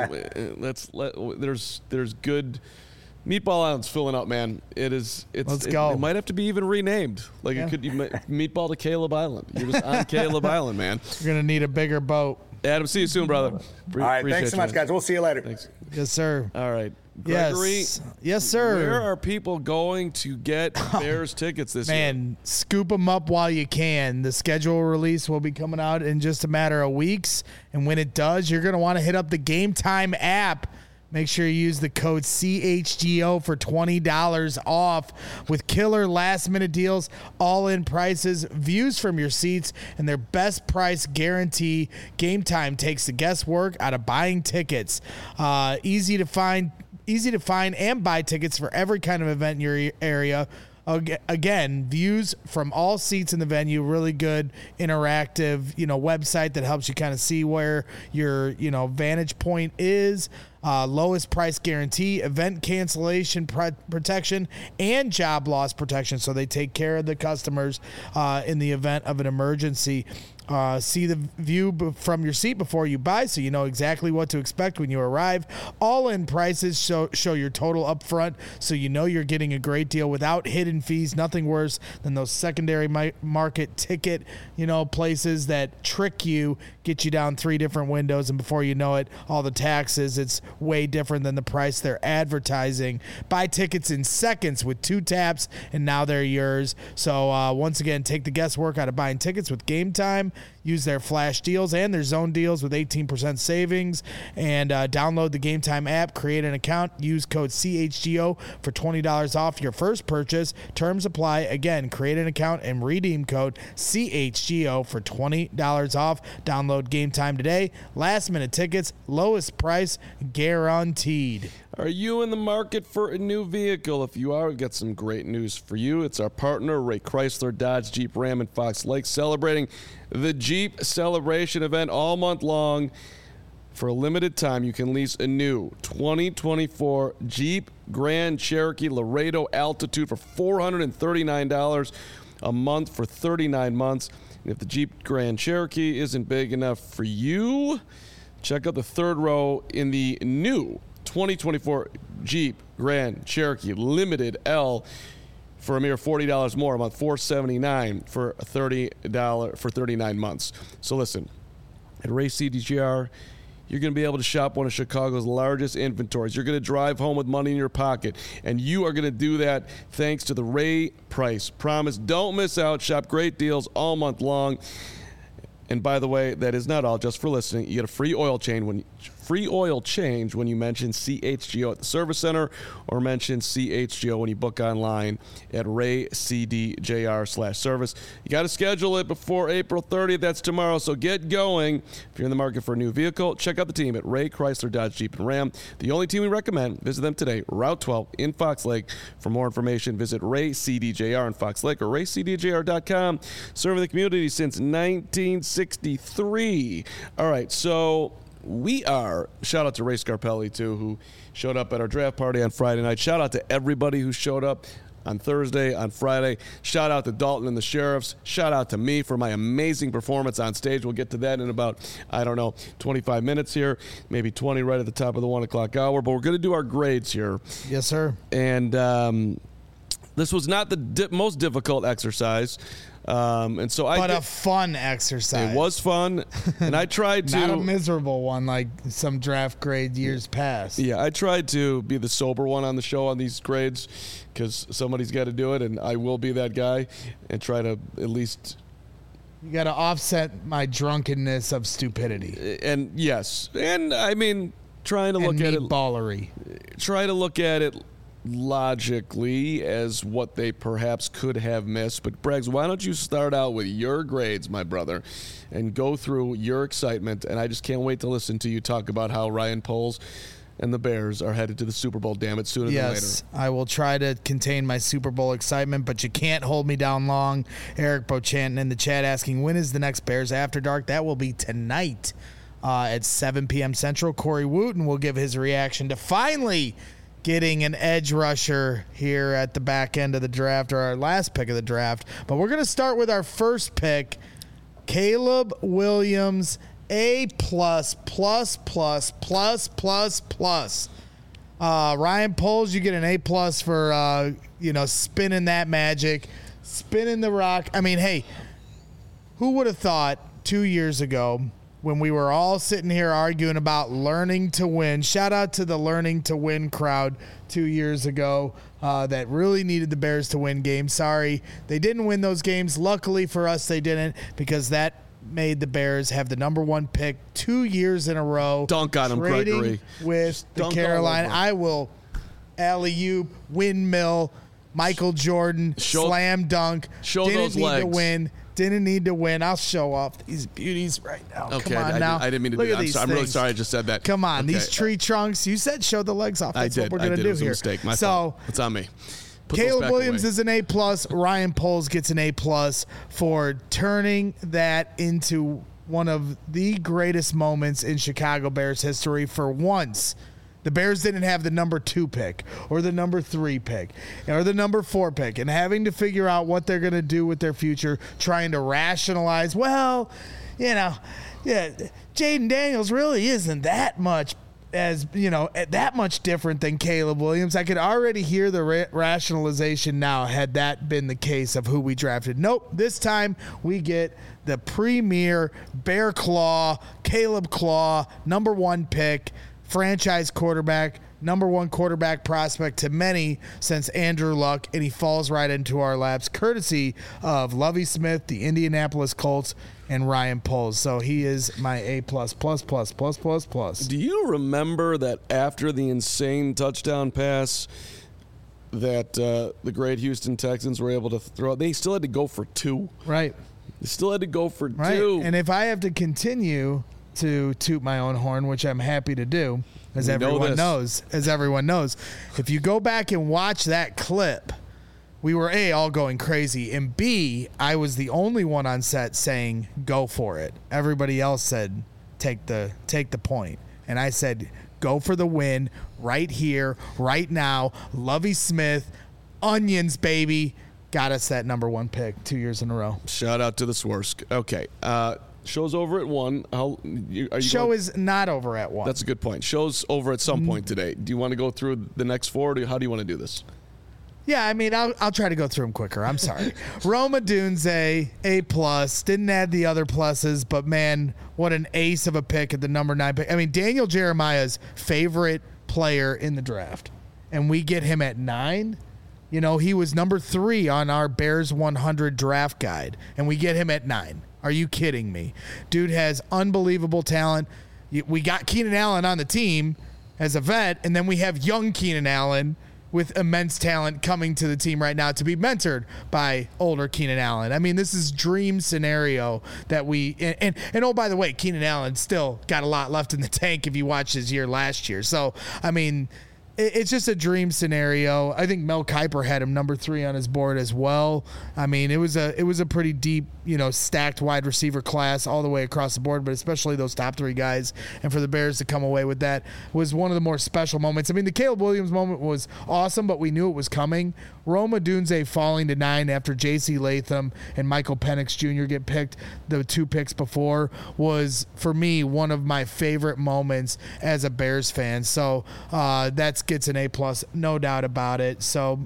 let's let. There's there's good. Meatball Island's filling up, man. It is. It's. Let's it, go. It might have to be even renamed. Like Yeah. it could. You might, Meatball to Caleb Island. You're just on Caleb Island, man. We're gonna need a bigger boat. Adam, see you soon, brother. Pre- All right, appreciate thanks so you, much, man. guys. We'll see you later. Thanks. Yes, sir. All right, Gregory. Yes, yes, sir. Where are people going to get Bears tickets this year? Man, scoop them up while you can. The schedule release will be coming out in just a matter of weeks. And when it does, you're going to want to hit up the Game Time app. Make sure you use the code C H G O for twenty dollars off with killer last-minute deals, all-in prices, views from your seats, and their best price guarantee. Game Time takes the guesswork out of buying tickets. Uh, easy to find, easy to find and buy tickets for every kind of event in your area. Ag- Again, views from all seats in the venue, really good interactive, you know, website that helps you kind of see where your, you know, vantage point is. Uh, lowest price guarantee, event cancellation pr- protection, and job loss protection. So they take care of the customers uh, in the event of an emergency. Uh, see the view b- from your seat before you buy, so you know exactly what to expect when you arrive. All-in prices show show your total up front, so you know you're getting a great deal without hidden fees. Nothing worse than those secondary mi- market ticket, you know, places that trick you, get you down three different windows, and before you know it, all the taxes. It's way different than the price they're advertising. Buy tickets in seconds with two taps, and now they're yours. So uh, once again, take the guesswork out of buying tickets with Game Time. Use their flash deals and their zone deals with eighteen percent savings, and uh, download the Game Time app, create an account, use code C H G O for twenty dollars off your first purchase. Terms apply. Again, create an account and redeem code C H G O for twenty dollars off. Download Game Time today. Last minute tickets, lowest price guaranteed. Are you in the market for a new vehicle? If you are, we've got some great news for you. It's our partner, Ray Chrysler, Dodge, Jeep, Ram, and Fox Lake, celebrating the Jeep Celebration event all month long. For a limited time, you can lease a new twenty twenty-four Jeep Grand Cherokee Laredo Altitude for four hundred thirty-nine dollars a month for thirty-nine months. And if the Jeep Grand Cherokee isn't big enough for you, check out the third row in the new twenty twenty-four Jeep Grand Cherokee Limited L for a mere forty dollars more a month, four hundred seventy-nine dollars for thirty dollars for thirty-nine months. So listen, at Ray C D G R, you're going to be able to shop one of Chicago's largest inventories. You're going to drive home with money in your pocket, and you are going to do that thanks to the Ray Price Promise. Don't miss out. Shop great deals all month long. And by the way, that is not all. Just for listening, you get a free oil change when you, free oil change when you mention C H G O at the service center, or mention C H G O when you book online at raycdjr slash service. You got to schedule it before April thirtieth. That's tomorrow. So get going. If you're in the market for a new vehicle, check out the team at Ray Chrysler, Dodge, Jeep, and Ram. The only team we recommend. Visit them today, Route twelve in Fox Lake. For more information, visit Ray C D J R in Fox Lake or ray c d j r dot com. Serving the community since nineteen sixty-three. All right, so we are, shout out to Ray Scarpelli, too, who showed up at our draft party on Friday night. Shout out to everybody who showed up on Thursday, on Friday. Shout out to Dalton and the Sheriffs. Shout out to me for my amazing performance on stage. We'll get to that in about, I don't know, twenty-five minutes here, maybe twenty right at the top of the one o'clock hour. But we're going to do our grades here. Yes, sir. And um, This was not the di- most difficult exercise. Um, and so I But did, a fun exercise. it was fun, and I tried to Not a miserable one like some draft grade years past. Yeah, I tried to be the sober one on the show on these grades because somebody's got to do it, and I will be that guy and try to at least. You got to offset my drunkenness of stupidity. And yes, and I mean, trying to look and at it, ballery. try to look at it logically as what they perhaps could have missed. But Braggs, why don't you start out with your grades, my brother, and go through your excitement? And I just can't wait to listen to you talk about how Ryan Poles and the Bears are headed to the Super Bowl, damn it, sooner Yes, than later. I will try to contain my Super Bowl excitement, but you can't hold me down long. Eric Bochanton in the chat asking, when is the next Bears After Dark? That will be tonight uh, at seven p.m. Central. Corey Wooten will give his reaction to finally getting an edge rusher here at the back end of the draft, or our last pick of the draft. But we're going to start with our first pick, Caleb Williams, A plus, plus, plus, plus, plus, plus. Uh, Ryan Poles, you get an A plus for, uh, you know, spinning that magic, spinning the rock. I mean, hey, who would have thought two years ago when we were all sitting here arguing about learning to win? Shout out to the learning to win crowd two years ago uh, that really needed the Bears to win games. Sorry, they didn't win those games. Luckily for us, they didn't, because that made the Bears have the number one pick two years in a row. Dunk on him, trading Gregory. With Just the dunk all Carolina. over. I will alley-oop, windmill, Michael Jordan, Show- slam dunk. show Didn't those need to legs. win. Didn't need to win. I'll show off these beauties right now. Okay, Come on I, now. I didn't mean to Look do at that. I'm, these sorry, I'm really things. sorry I just said that. Come on, Okay. these tree trunks. You said show the legs off. I That's did. what we're I gonna did. do It was here. a mistake. My so fault. It's on me. Put those Caleb back Williams away. is an A plus. Ryan Poles gets an A plus for turning that into one of the greatest moments in Chicago Bears history. For once, the Bears didn't have the number two pick or the number three pick or the number four pick, and having to figure out what they're going to do with their future, trying to rationalize, well, you know, yeah, Jaden Daniels really isn't that much as, you know, that much different than Caleb Williams. I could already hear the ra- rationalization now had that been the case of who we drafted. Nope, this time we get the premier Bear Claw, Caleb Claw, number one pick, franchise quarterback, number one quarterback prospect to many since Andrew Luck, and he falls right into our laps, courtesy of Lovie Smith, the Indianapolis Colts, and Ryan Poles. So he is my A plus plus plus plus plus plus. Do you remember that after the insane touchdown pass that uh, the great Houston Texans were able to throw, they still had to go for two. Right. They still had to go for Right. two. And if I have to continue to toot my own horn, which I'm happy to do, as We know everyone this. knows, as everyone knows, if you go back and watch that clip, we were A, all going crazy, and B, I was the only one on set saying, go for it. Everybody else said, take the take the point. And I said, go for the win right here, right now. Lovie Smith, onions, baby. Got us that number one pick two years in a row. Shout out to the Swersk. Okay. Uh, show's over at one. How, you, are you Show going, is not over at one. That's a good point. Show's over at some point today. Do you want to go through the next four, or do you, how do you want to do this? Yeah, I mean, I'll, I'll try to go through them quicker. I'm sorry. Roma Dunze, A plus. Didn't add the other pluses, but man, what an ace of a pick at the number nine pick. I mean, Daniel Jeremiah's favorite player in the draft, and we get him at nine. You know, he was number three on our Bears one hundred draft guide, and we get him at nine. Are you kidding me? Dude has unbelievable talent. We got Keenan Allen on the team as a vet, and then we have young Keenan Allen with immense talent coming to the team right now to be mentored by older Keenan Allen. I mean, this is dream scenario that we and, and and oh, by the way, Keenan Allen still got a lot left in the tank if you watch his year last year. So I mean, it, it's just a dream scenario. I think Mel Kiper had him number three on his board as well. I mean, it was a it was a pretty deep, you know, stacked wide receiver class all the way across the board, but especially those top three guys. And for the Bears to come away with that was one of the more special moments. I mean, the Caleb Williams moment was awesome, but we knew it was coming. Roma Dunze falling to nine after J C Latham and Michael Penix Junior get picked, the two picks before, was, for me, one of my favorite moments as a Bears fan. So uh, that gets an A plus, no doubt about it. So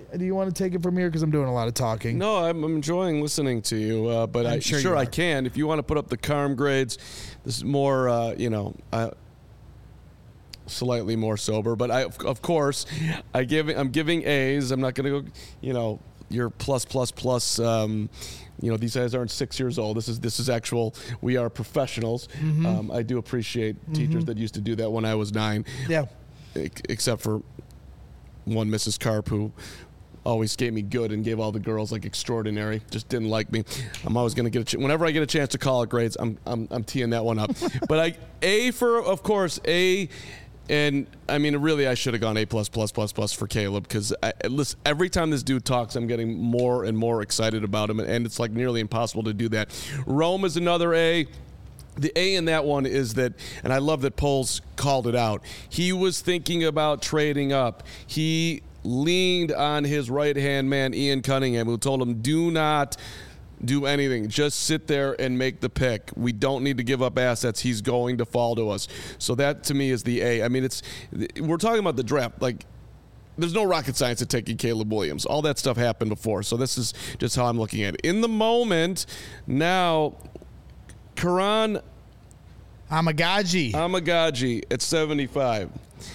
do you want to take it from here? Because I'm doing a lot of talking. No, I'm, I'm enjoying listening to you, uh, but I'm I, sure sure, you I are. can. If you want to put up the Carm grades, this is more, uh, you know, uh, slightly more sober. But I, of, of course, I give. I'm giving A's. I'm not going to go, you know, your plus plus plus. Um, you know, these guys aren't six years old. This is this is actual. We are professionals. Mm-hmm. Um, I do appreciate mm-hmm. teachers that used to do that when I was nine. Yeah. Except for one Missus Carp who always gave me good and gave all the girls like extraordinary. Just didn't like me. I'm always gonna get a ch- whenever I get a chance to call it grades. I'm I'm I'm teeing that one up. But I A for of course A. And I mean, really, I should have gone A plus plus plus plus for Caleb because listen, every time this dude talks, I'm getting more and more excited about him, and it's like nearly impossible to do that. Rome is another A. The A in that one is that, and I love that Poles called it out. He was thinking about trading up. He leaned on his right-hand man, Ian Cunningham, who told him, do not do anything. Just sit there and make the pick. We don't need to give up assets. He's going to fall to us. So that, to me, is the A. I mean, it's we're talking about the draft. Like, there's no rocket science at taking Caleb Williams. All that stuff happened before. So this is just how I'm looking at it. In the moment, now, Karan Amagaji. Amagaji at seventy-five.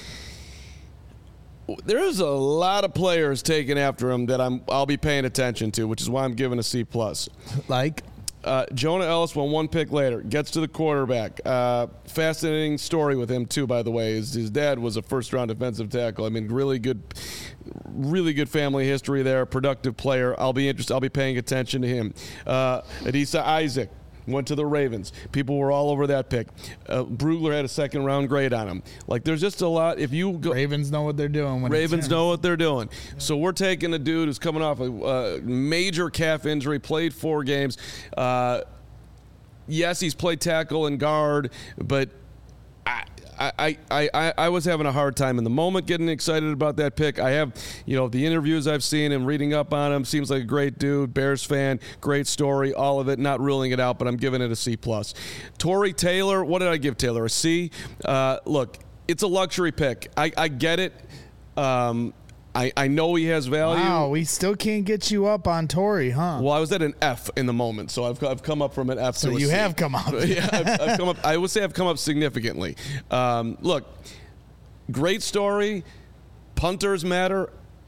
There's a lot of players taken after him that I'm I'll be paying attention to, which is why I'm giving a C plus. Like uh, Jonah Ellis went one pick later, gets to the quarterback. Uh, fascinating story with him too, by the way. His, his dad was a first round defensive tackle. I mean, really good, really good family history there. Productive player. I'll be interested. I'll be paying attention to him. Uh, Adisa Isaac went to the Ravens. People were all over that pick. Uh, Brugler had a second round grade on him. Like, there's just a lot. If you go, Ravens know what they're doing. When Ravens it's know what they're doing. So we're taking a dude who's coming off a uh, major calf injury, played four games. Uh, yes, he's played tackle and guard, but I, I, I, I, I was having a hard time in the moment getting excited about that pick. I have, you know, the interviews I've seen and reading up on him. Seems like a great dude, Bears fan, great story, all of it. Not ruling it out, but I'm giving it a C plus. Tory Taylor, what did I give Taylor? A C. Uh, look, it's a luxury pick. I, I get it. Um, I, I know he has value. Wow, we still can't get you up on Tory, huh? Well, I was at an F in the moment, so I've I've come up from an F so to a you C. have come up. yeah, I've, I've come up. I would say I've come up significantly. Um, look, great story. Punters matter.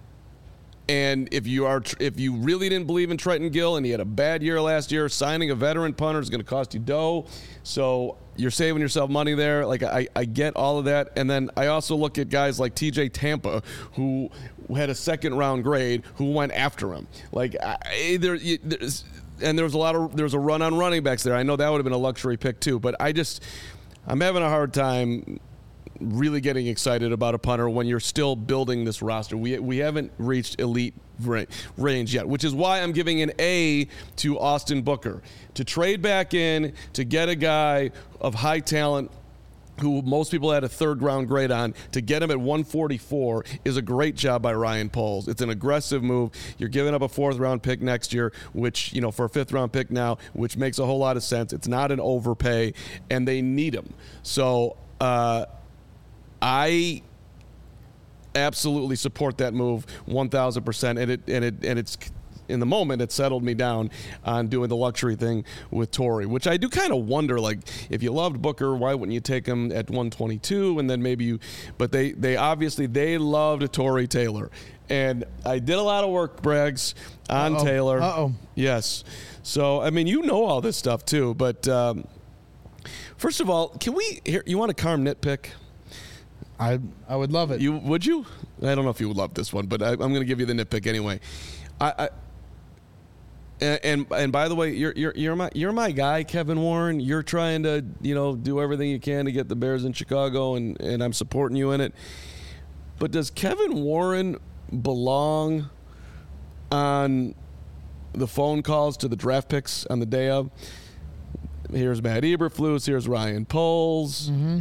And if you are, if you really didn't believe in Trenton Gill and he had a bad year last year, signing a veteran punter is going to cost you dough. So you're saving yourself money there. Like I, I get all of that. And then I also look at guys like T J Tampa, who had a second round grade, who went after him. Like I, there, there's, and there was a lot of there was a run on running backs there. I know that would have been a luxury pick too. But I just, I'm having a hard time really getting excited about a punter when you're still building this roster. We we haven't reached elite range yet, which is why I'm giving an A to Austin Booker. To trade back in, to get a guy of high talent who most people had a third round grade on, to get him at one forty-four is a great job by Ryan Poles. It's an aggressive move. You're giving up a fourth round pick next year, which, you know, for a fifth round pick now, which makes a whole lot of sense. It's not an overpay, and they need him. So, uh, I absolutely support that move one thousand percent, and it and it and it's in the moment it settled me down on doing the luxury thing with Tory, which I do kind of wonder, like, if you loved Booker, why wouldn't you take him at one twenty-two and then maybe you but they they obviously they loved Tory Taylor, and I did a lot of work, Braggs, on Uh-oh. Taylor. Uh-oh. Yes. So I mean, you know all this stuff too, but um, first of all, can we here you want a Carm nitpick? I I would love it. You would you? I don't know if you would love this one, but I, I'm going to give you the nitpick anyway. I, I and, and and by the way, you're you're you're my you're my guy, Kevin Warren. You're trying to you know do everything you can to get the Bears in Chicago, and and I'm supporting you in it. But does Kevin Warren belong on the phone calls to the draft picks on the day of? Here's Matt Eberflus. Here's Ryan Poles. Mm-hmm.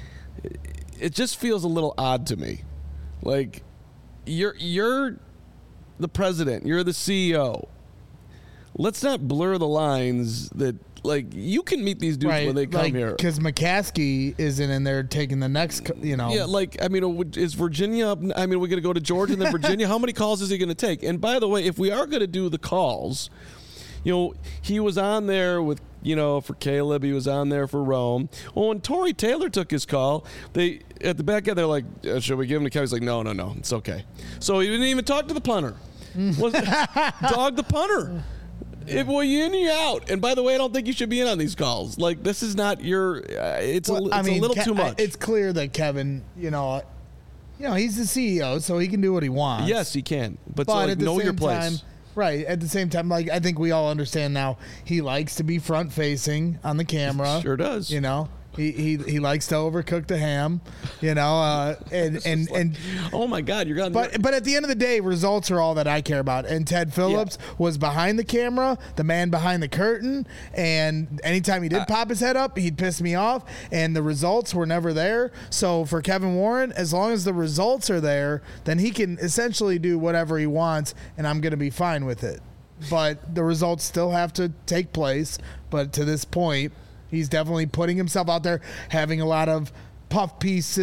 It just feels a little odd to me. Like, you're you're the president, you're the C E O. let's not blur the lines that. Like, you can meet these dudes right. when they come like, here. Because McCaskey isn't in there taking the next, you know. Yeah, like, I mean, is Virginia up? I mean, we're going to go to Georgia and then Virginia. How many calls is he going to take? And by the way, if we are going to do the calls, you know, he was on there with, you know, for Caleb. He was on there for Rome. Well, when Tory Taylor took his call, they at the back end, they're like, uh, should we give him to Kevin? He's like, no, no, no, it's okay. So he didn't even talk to the punter. Was, dog the punter. If well, you in, you out. And by the way, I don't think you should be in on these calls. Like, this is not your. Uh, it's well, a, it's I mean, a little Ke- too much. It's clear that Kevin, you know, you know, he's the C E O, so he can do what he wants. Yes, he can. But, But so, like, at the know same your place. time, right? At the same time, like I think we all understand now, he likes to be front facing on the camera. Sure does. You know. He, he he likes to overcook the ham, you know, uh, and and, like, and oh my God, you're gonna. but but at the end of the day, results are all that I care about. And Ted Phillips Yeah. was behind the camera, the man behind the curtain, and anytime he did Uh, pop his head up, he'd piss me off. And the results were never there. So for Kevin Warren, as long as the results are there, then he can essentially do whatever he wants, and I'm going to be fine with it. But the results still have to take place. But to this point, he's definitely putting himself out there, having a lot of puff piece,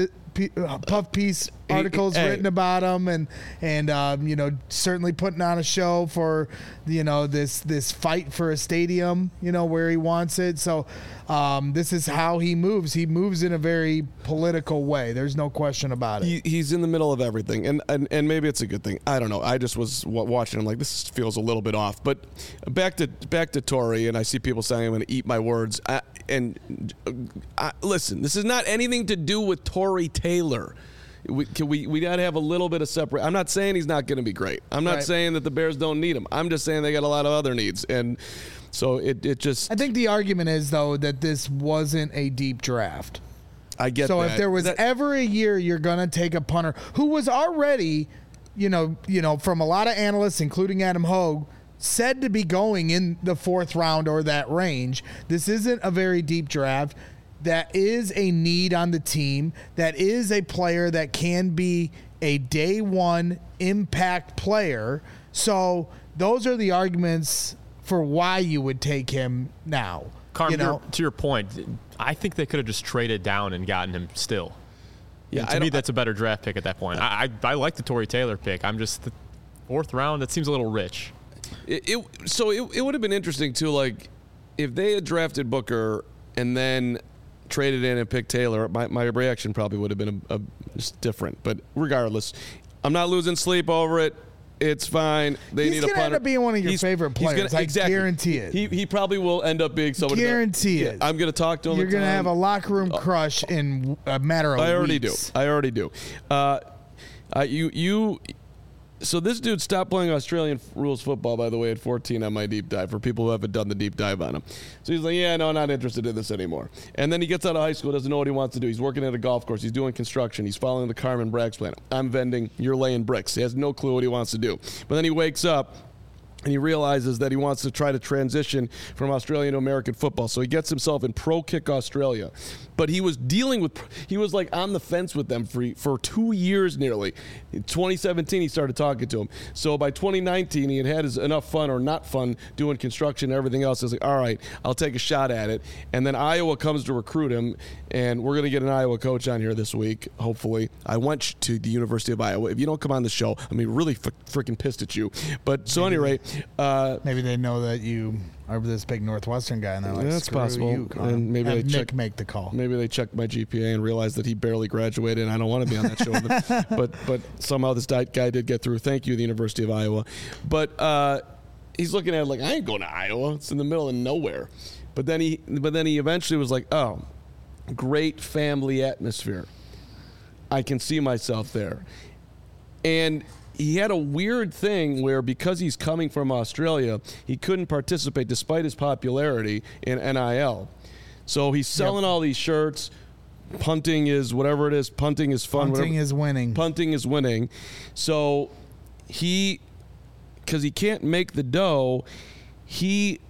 puff piece articles hey. written about him, and and um, you know, certainly putting on a show for, you know, this this fight for a stadium, you know, where he wants it. So um, this is how he moves. He moves in a very political way. There's no question about it. He, he's in the middle of everything, and, and and maybe it's a good thing. I don't know. I just was w- watching him like, this feels a little bit off. But back to back to Tory, and I see people saying I'm going to eat my words. I, and uh, I, listen, this is not anything to do with Tory Taylor. We can we we got to have a little bit of separate. I'm not saying he's not going to be great. I'm not Right. saying that the Bears don't need him. I'm just saying they got a lot of other needs, and so it it just. I think the argument is though that this wasn't a deep draft. I get So that. if there was That- ever a year you're going to take a punter who was already, you know, you know, from a lot of analysts, including Adam Hogue, said to be going in the fourth round or that range. This isn't a very deep draft. That is a need on the team. That is a player that can be a day one impact player. So those are the arguments for why you would take him now. Carm, you know, to your point, I think they could have just traded down and gotten him still. yeah, And I to me, don't- that's a better draft pick at that point. I I, I like the Tory Taylor pick. I'm just the fourth round. That seems a little rich. It, it so it, it would have been interesting too, like if they had drafted Booker and then traded in and picked Taylor. My, my reaction probably would have been a, a, just different. But regardless, I'm not losing sleep over it. It's fine. They He's need a gonna punter. end up being one of your He's- favorite he's players. I guarantee it. He he probably will end up being somebody. that- Guarantee yeah, it. I'm going to talk to him. You're going to have a locker room crush in a matter of I already weeks. do. I already do. Uh, uh, you you. So this dude stopped playing Australian rules football, by the way, at fourteen on my deep dive for people who haven't done the deep dive on him. So he's like, yeah, no, not interested in this anymore. And then he gets out of high school, doesn't know what he wants to do. He's working at a golf course. He's doing construction. He's following the Carmen Bragg's plan. I'm vending. You're laying bricks. He has no clue what he wants to do. But then he wakes up and he realizes that he wants to try to transition from Australian to American football. So he gets himself in Pro Kick Australia. But he was dealing with, he was like on the fence with them for, for two years nearly. In twenty seventeen, he started talking to him. So by twenty nineteen, he had had his enough fun or not fun doing construction and everything else. He was like, all right, I'll take a shot at it. And then Iowa comes to recruit him, and we're going to get an Iowa coach on here this week, hopefully. I went to the University of Iowa. If you don't come on the show, I'm mean, really f- freaking pissed at you. But so anyway, uh, Maybe they know that you are this big Northwestern guy, and they're like, That's "Screw possible." you, Carm." And maybe Have they Nick check- make the call. maybe they checked my G P A and realized that he barely graduated, and I don't want to be on that show. But but, but somehow this guy did get through. Thank you, the University of Iowa. But uh, he's looking at it like, I ain't going to Iowa. It's in the middle of nowhere. But then he but then he eventually was like, oh, great family atmosphere. I can see myself there. And he had a weird thing where because he's coming from Australia, he couldn't participate despite his popularity in N I L. So he's selling Yep. all these shirts. Punting is whatever it is. Punting is fun. Punting whatever. is winning. Punting is winning. So he, because he can't make the dough, he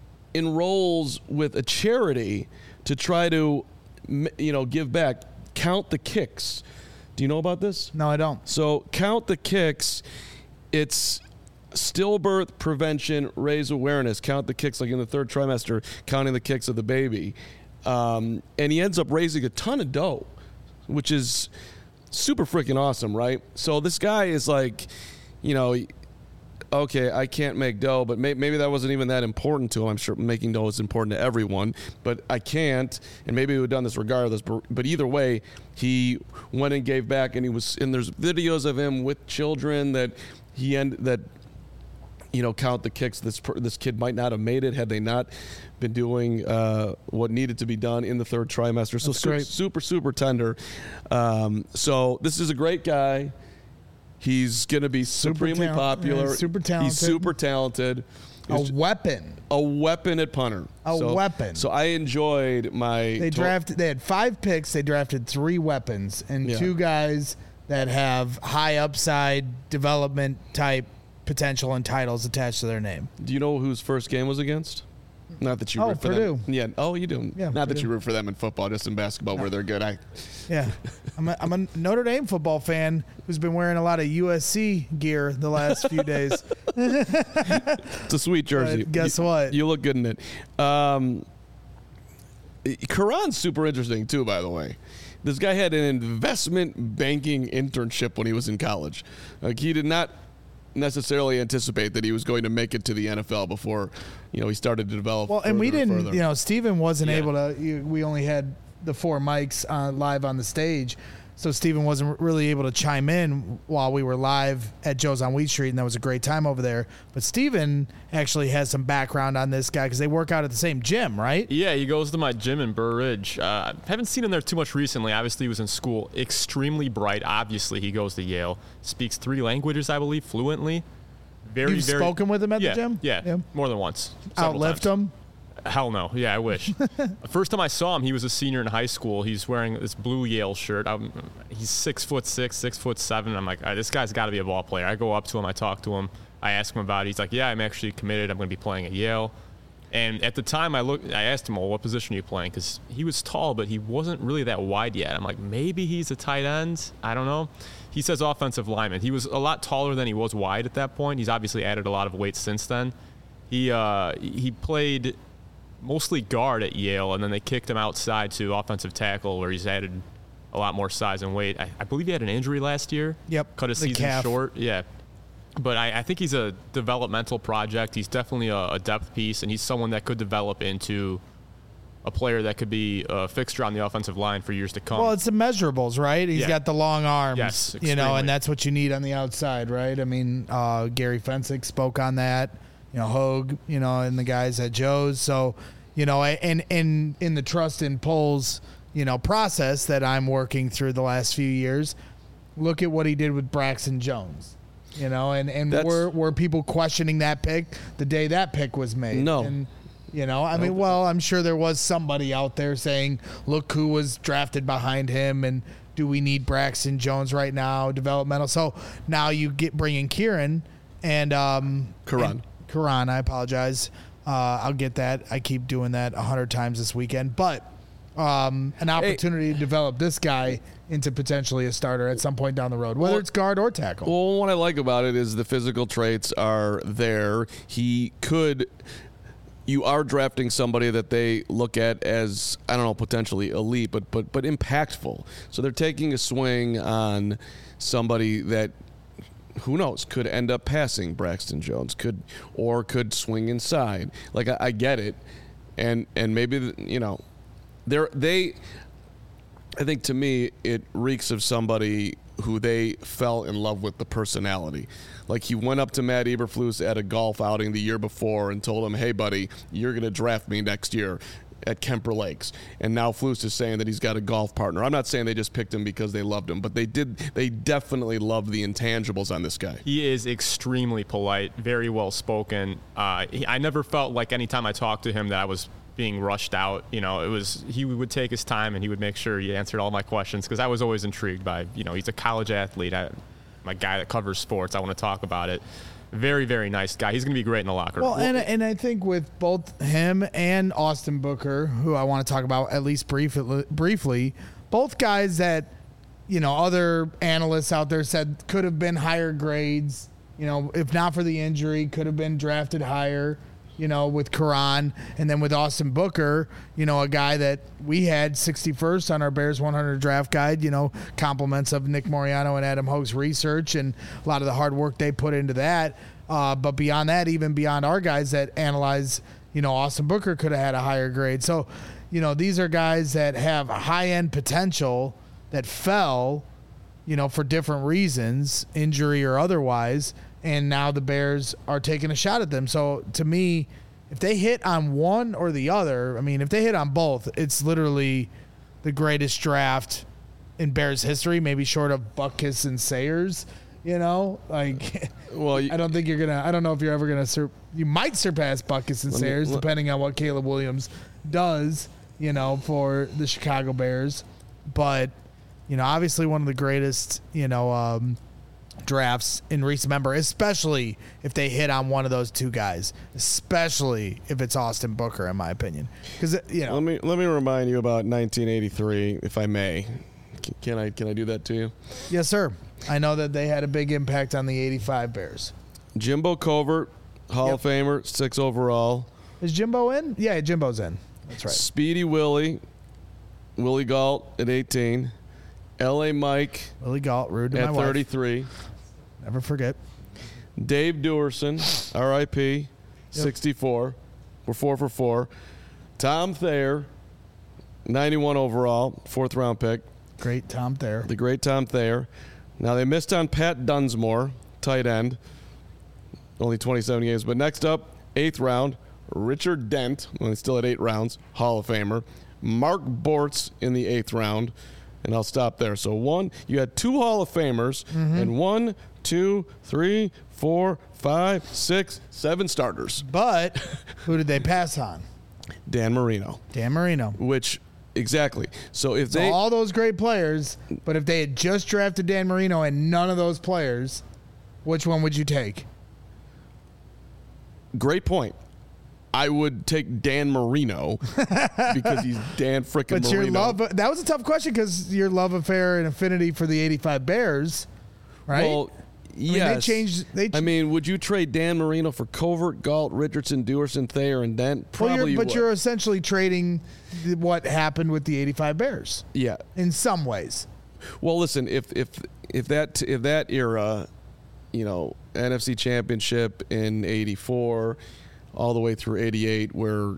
enrolls with a charity to try to, you know, give back. Count the Kicks. Do you know about this? No, I don't. So Count the Kicks, it's stillbirth prevention, raise awareness, count the kicks, like in the third trimester, counting the kicks of the baby. Um, and he ends up raising a ton of dough, which is super freaking awesome, right? So this guy is like, you know, okay, I can't make dough, but may, maybe that wasn't even that important to him. I'm sure making dough is important to everyone, but I can't, and maybe we would have done this regardless. But, but either way, he went and gave back, and he was, and there's videos of him with children that he end that, you know, count the kicks. This this kid might not have made it had they not been doing uh, what needed to be done in the third trimester. So super, super, super tender. Um, so this is a great guy. He's going to be supremely super popular. Yeah, super talented. He's super talented. He's a weapon. A weapon at punter. A so, weapon. So I enjoyed my. They to- drafted. They had five picks. They drafted three weapons and Yeah. two guys that have high upside development type potential and titles attached to their name. Do you know whose first game was against? Not that you Oh, root for Purdue. them. Yeah. Oh, you do. Yeah, Not that Purdue. you root for them in football, just in basketball where they're good. I. Yeah, I'm a, I'm a Notre Dame football fan who's been wearing a lot of U S C gear the last few days. It's a sweet jersey. But guess You- what? You look good in it. Um, Karan's super interesting too, by the way. This guy had an investment banking internship when he was in college. Like he did not necessarily anticipate that he was going to make it to the N F L before, you know, he started to develop. Well, and we further and didn't, further. you know, Steven wasn't Yeah. able to, you, we only had the four mics uh, live on the stage. So Steven wasn't really able to chime in while we were live at Joe's on Wheat Street, and that was a great time over there. But Steven actually has some background on this guy because they work out at the same gym, right? Yeah, he goes to my gym in Burr Ridge. Uh, haven't seen him there too much recently. Obviously, he was in school. Extremely bright. Obviously, he goes to Yale. Speaks three languages, I believe, fluently. Very, You've very, spoken with him at yeah, the gym? Yeah, Yeah. more than once. several Outlift times. him? Hell no. Yeah, I wish. First time I saw him, he was a senior in high school. He's wearing this blue Yale shirt. I'm, he's six foot six, six foot seven. I'm like, all right, this guy's got to be a ball player. I go up to him, I talk to him, I ask him about it. He's like, yeah, I'm actually committed. I'm going to be playing at Yale. And at the time, I looked, I asked him, well, what position are you playing? Because he was tall, but he wasn't really that wide yet. I'm like, maybe he's a tight end. I don't know. He says offensive lineman. He was a lot taller than he was wide at that point. He's obviously added a lot of weight since then. He uh, he played mostly guard at Yale, and then they kicked him outside to offensive tackle, where he's added a lot more size and weight. I, I believe he had an injury last year. Yep, Cut his the season calf. short. Yeah. But I, I think he's a developmental project. He's definitely a, a depth piece, and he's someone that could develop into a player that could be a fixture on the offensive line for years to come. Well, it's the measurables, right? He's Yeah. got the long arms, Yes, you know, extremely. and that's what you need on the outside, right? I mean, uh, Gary Fensick spoke on that, you know, Hogue, you know, and the guys at Joe's. So, you know, and and in the trust and polls, you know, process that I'm working through the last few years, look at what he did with Braxton Jones. You know, and, and That's- were were people questioning that pick the day that pick was made? No. And, you know, I mean, well, I'm sure there was somebody out there saying, look who was drafted behind him, and do we need Braxton Jones right now, developmental? So now you get bringing Kieran and um, Karan. and Karan, I apologize. Uh, I'll get that. I keep doing that a hundred times this weekend, but um, an opportunity to develop this guy into potentially a starter at some point down the road, whether Well- it's guard or tackle. Well, what I like about it is the physical traits are there. He could. You are drafting somebody that they look at as, I don't know, potentially elite, but but but impactful. So they're taking a swing on somebody that, who knows, could end up passing Braxton Jones, could or could swing inside. Like I, I get it, and and maybe you know, they're they. I think to me it reeks of somebody who they fell in love with the personality. Like he went up to Matt Eberflus at a golf outing the year before and told him, hey buddy, you're going to draft me next year at Kemper Lakes. And now Flus is saying that he's got a golf partner. I'm not saying they just picked him because they loved him, but they did. They definitely loved the intangibles on this guy. He is extremely polite, very well spoken. Uh, he, I never felt like anytime I talked to him that I was being rushed out. You know, it was he would take his time and he would make sure he answered all my questions because I was always intrigued by, you know, he's a college athlete. I, I'm a guy that covers sports. I want to talk about it. Very, very nice guy. He's going to be great in the locker room. Well, and and I think with both him and Austin Booker, who I want to talk about at least briefly, briefly, both guys that, you know, other analysts out there said could have been higher grades you know, if not for the injury, could have been drafted higher, you know, with Karan. And then with Austin Booker, you know, a guy that we had sixty-first on our Bears one hundred draft guide, you know, compliments of Nick Moriano and Adam Hogue's research and a lot of the hard work they put into that. Uh, but beyond that, even beyond our guys that analyze, you know, Austin Booker could have had a higher grade. So, you know, these are guys that have high-end potential that fell, you know, for different reasons, injury or otherwise, and now the Bears are taking a shot at them. So, to me, if they hit on one or the other, I mean, if they hit on both, it's literally the greatest draft in Bears history, maybe short of Butkus and Sayers, you know? Like, Well, you, I don't think you're going to – I don't know if you're ever going to sur- – you might surpass Butkus and Let me- Sayers, let- depending on what Caleb Williams does, you know, for the Chicago Bears. But – you know, obviously one of the greatest, you know, um, drafts in recent memory, especially if they hit on one of those two guys, especially if it's Austin Booker, in my opinion. Because, you know. let me let me remind you about nineteen eighty-three, if I may. C- Can I can I do that to you? Yes, sir. I know that they had a big impact on the eighty-five Bears. Jimbo Covert, Hall Yep. of Famer, six overall. Is Jimbo in? Yeah, Jimbo's in. That's right. Speedy Willie, Willie Galt at eighteen. L A Mike Willie Galt, rude to my at wife. thirty-three. Never forget. Dave Duerson, R I P, sixty-four. We're four for four. Tom Thayer, ninety-one overall, fourth round pick. Great Tom Thayer. The great Tom Thayer. Now, they missed on Pat Dunsmore, tight end. Only twenty-seven games. But next up, eighth round, Richard Dent, only still at eight rounds, Hall of Famer. Mark Bortz in the eighth round. And I'll stop there. So one, you had two Hall of Famers, Mm-hmm. and one, two, three, four, five, six, seven starters. But who did they pass on? Dan Marino, Dan Marino. which exactly. So if So they all those great players, but if they had just drafted Dan Marino and none of those players, which one would you take? great point. I would take Dan Marino because he's Dan frickin' But Marino. your love, that was a tough question because your love affair and affinity for the eighty-five Bears, right? Well, mean, yes. they changed- they ch- I mean, would you trade Dan Marino for Covert, Galt, Richardson, Duerson, Thayer, and Dent? Well, Probably. you're, but would. you're essentially trading the- what happened with the eighty-five Bears yeah. in some ways. Well, listen, if if if that if that era, you know, N F C Championship in eighty-four, all the way through eighty-eight, where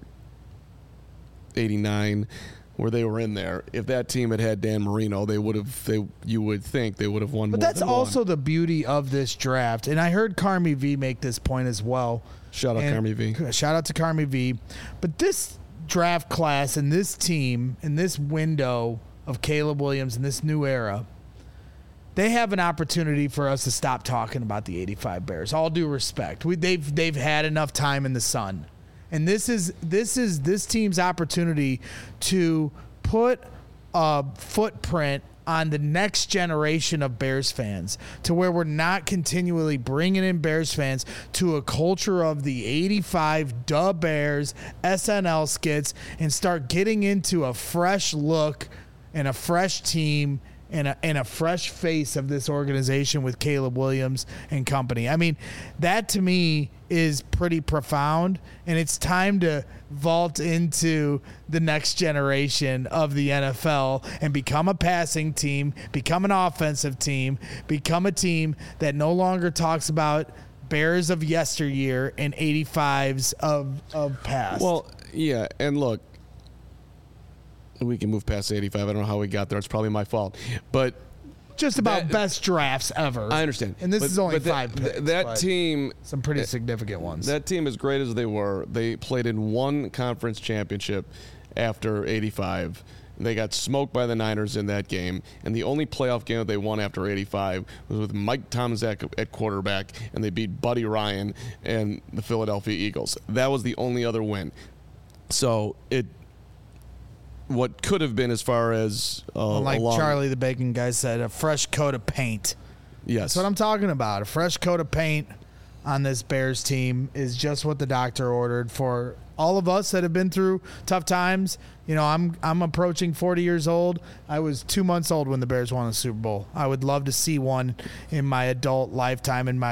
eighty-nine, where they were in there. If that team had had Dan Marino, they would have. They you would think they would have won. But more that's than also one. the beauty of this draft. And I heard Carmi V make this point as well. Shout out And- Carmi V. Shout out to Carmi V. But this draft class and this team and this window of Caleb Williams and this new era, they have an opportunity for us to stop talking about the eighty-five Bears. All due respect, we, they've they've had enough time in the sun, and this is this is this team's opportunity to put a footprint on the next generation of Bears fans, to where we're not continually bringing in Bears fans to a culture of the eighty-five Duh Bears S N L skits and start getting into a fresh look and a fresh team and a, and a fresh face of this organization with Caleb Williams and company. I mean, that to me is pretty profound, and it's time to vault into the next generation of the N F L and become a passing team, become an offensive team, become a team that no longer talks about Bears of yesteryear and eighty-fives of, of past. Well, yeah, and look, we can move past eighty-five. I don't know how we got there. It's probably my fault. But just about that- best drafts ever. I understand. And this But- is only but that- five th- picks. that but team, some pretty significant ones. that team, as great as they were, they played in one conference championship after eighty-five. They got smoked by the Niners in that game, and the only playoff game that they won after eighty-five was with Mike Tomczak at quarterback, and they beat Buddy Ryan and the Philadelphia Eagles. That was the only other win. So it, what could have been as far as uh, like along, Charlie the Bacon guy said, a fresh coat of paint. yes, That's what I'm talking about. A fresh coat of paint on this Bears team is just what the doctor ordered for all of us that have been through tough times. You know, I'm I'm approaching forty years old. I was two months old when the Bears won the Super Bowl. I would love to see one in my adult lifetime, in my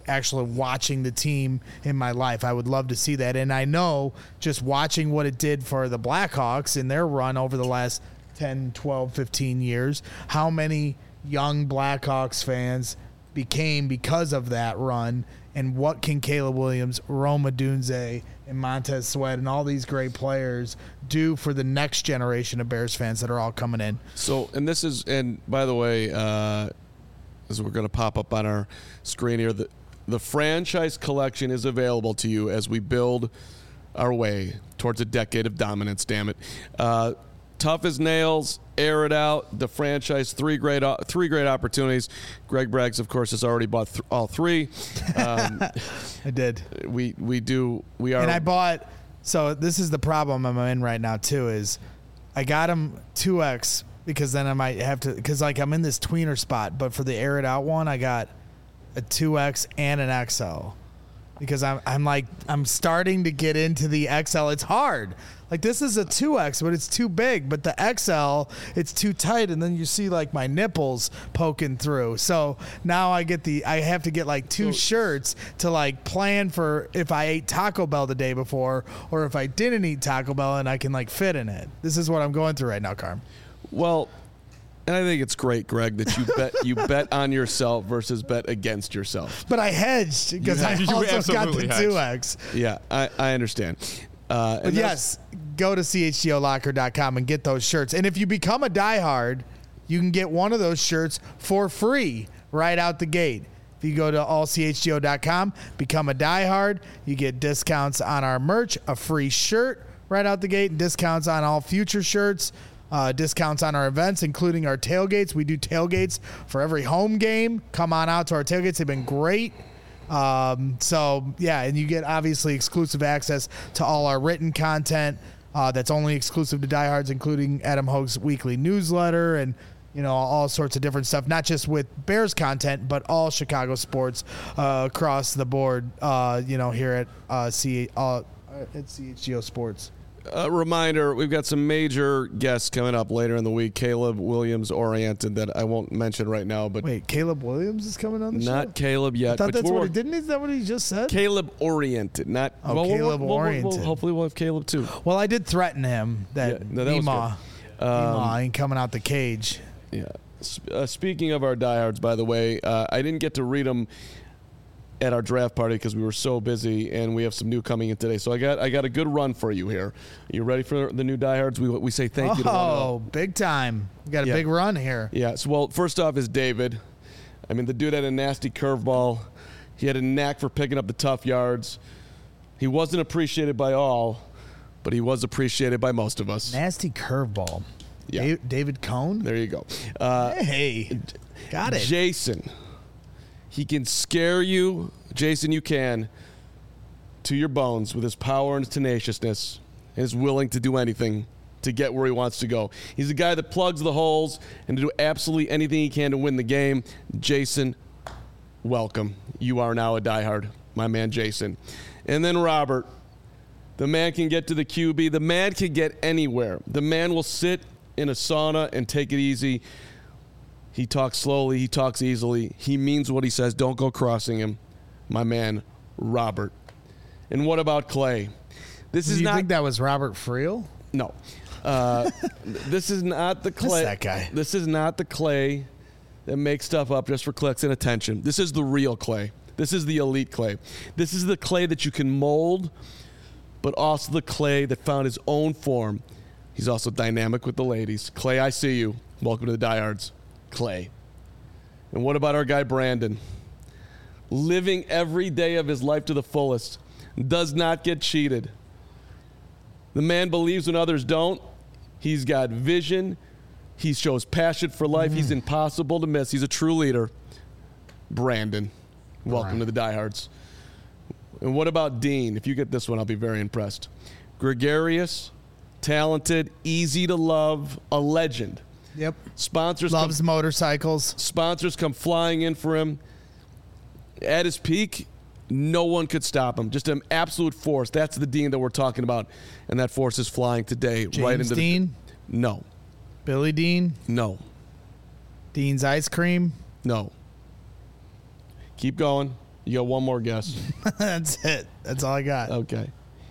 actually watching the team in my life. I would love to see that. And I know just watching what it did for the Blackhawks in their run over the last ten, twelve, fifteen years, how many young Blackhawks fans became because of that run, and what can Caleb Williams, Rome Odunze, and Montez Sweat and all these great players do for the next generation of Bears fans that are all coming in. So, and this is, and by the way, uh, as we're going to pop up on our screen here, the, the franchise collection is available to you as we build our way towards a decade of dominance, damn it. Uh, tough as nails, air it out, the franchise, three great three great opportunities. Greg Braggs, of course, has already bought th- all three. Um, I did. We we do, we are. And I bought, so this is the problem I'm in right now too, is I got them two X because then I might have to, because like I'm in this tweener spot, but for the air it out one, I got a two X and an X L. Because I'm I'm like I'm starting to get into the X L. It's hard. Like this is a two X, but it's too big. But the X L, it's too tight, and then you see like my nipples poking through. So now I get the I have to get like two shirts to like plan for if I ate Taco Bell the day before, or if I didn't eat Taco Bell, and I can like fit in it. This is what I'm going through right now, Carm. Well, and I think it's great, Greg, that you bet you bet on yourself versus bet against yourself. But I hedged because I You also got the hedged. two X. Yeah, I, I understand. Uh, But and yes, go to C H G O locker dot com and get those shirts. And if you become a diehard, you can get one of those shirts for free right out the gate. If you go to all C H G O dot com, become a diehard, you get discounts on our merch, a free shirt right out the gate, and discounts on all future shirts. Uh, discounts on our events, including our tailgates. We do tailgates for every home game. Come on out to our tailgates. They've been great. Um, so, yeah, and you get obviously exclusive access to all our written content uh, that's only exclusive to diehards, including Adam Hogue's weekly newsletter and, you know, all sorts of different stuff, not just with Bears content, but all Chicago sports uh, across the board, uh, you know, here at, uh, C- uh, at C H G O Sports. A reminder, we've got some major guests coming up later in the week. Caleb Williams oriented that I won't mention right now, but Wait, Caleb Williams is coming on the show? not Caleb yet. I thought but that's we're- what he didn't. Is that what he just said? Caleb oriented, not Oh, well, we'll- Caleb we'll, we'll, oriented. We'll, hopefully, we'll have Caleb too. Well, I did threaten him that Yeah, no, that was Ema, good. Um, Ema ain't coming out the cage. Yeah. S- Uh, speaking of our diehards, by the way, uh, I didn't get to read them at our draft party because we were so busy, and we have some new coming in today. So I got I got a good run for you here. You ready for the new diehards? We we say thank you to one of them. Oh, big time! We got a Yeah. big run here. Yeah. So, well, first off is David. I mean, the dude had a nasty curveball. He had a knack for picking up the tough yards. He wasn't appreciated by all, but he was appreciated by most of us. Nasty curveball. Yeah. Da- David Cohn. There you go. Uh, Hey, got it. Jason. He can scare you, Jason, you can, to your bones with his power and his tenaciousness, and is willing to do anything to get where he wants to go. He's a guy that plugs the holes and to do absolutely anything he can to win the game. Jason, welcome. You are now a diehard, my man Jason. And then Robert. The man can get to the Q B. The man can get anywhere. The man will sit in a sauna and take it easy. He talks slowly. He talks easily. He means what he says. Don't go crossing him. My man, Robert. And what about Clay? This Do is you not. think that was Robert Friel? No. Uh, this is not the Clay. that guy. This is not the Clay that makes stuff up just for clicks and attention. This is the real Clay. This is the elite Clay. This is the Clay that you can mold, but also the Clay that found his own form. He's also dynamic with the ladies. Clay, I see you. Welcome to the Diehards. Clay. And what about our guy Brandon? Living every day of his life to the fullest. Does not get cheated. The man believes when others don't. He's got vision. He shows passion for life. Mm. He's impossible to miss. He's a true leader. Brandon. Welcome right. to the Diehards. And what about Dean? If you get this one, I'll be very impressed. Gregarious, talented, easy to love, a legend. Yep. Sponsors loves come, motorcycles. Sponsors come flying in for him. At his peak, no one could stop him. Just an absolute force. That's the Dean that we're talking about, and that force is flying today James right into Dean? the. No. Billy Dean? No. Dean's Ice Cream? No. Keep going. You got one more guess. That's it. That's all I got. Okay.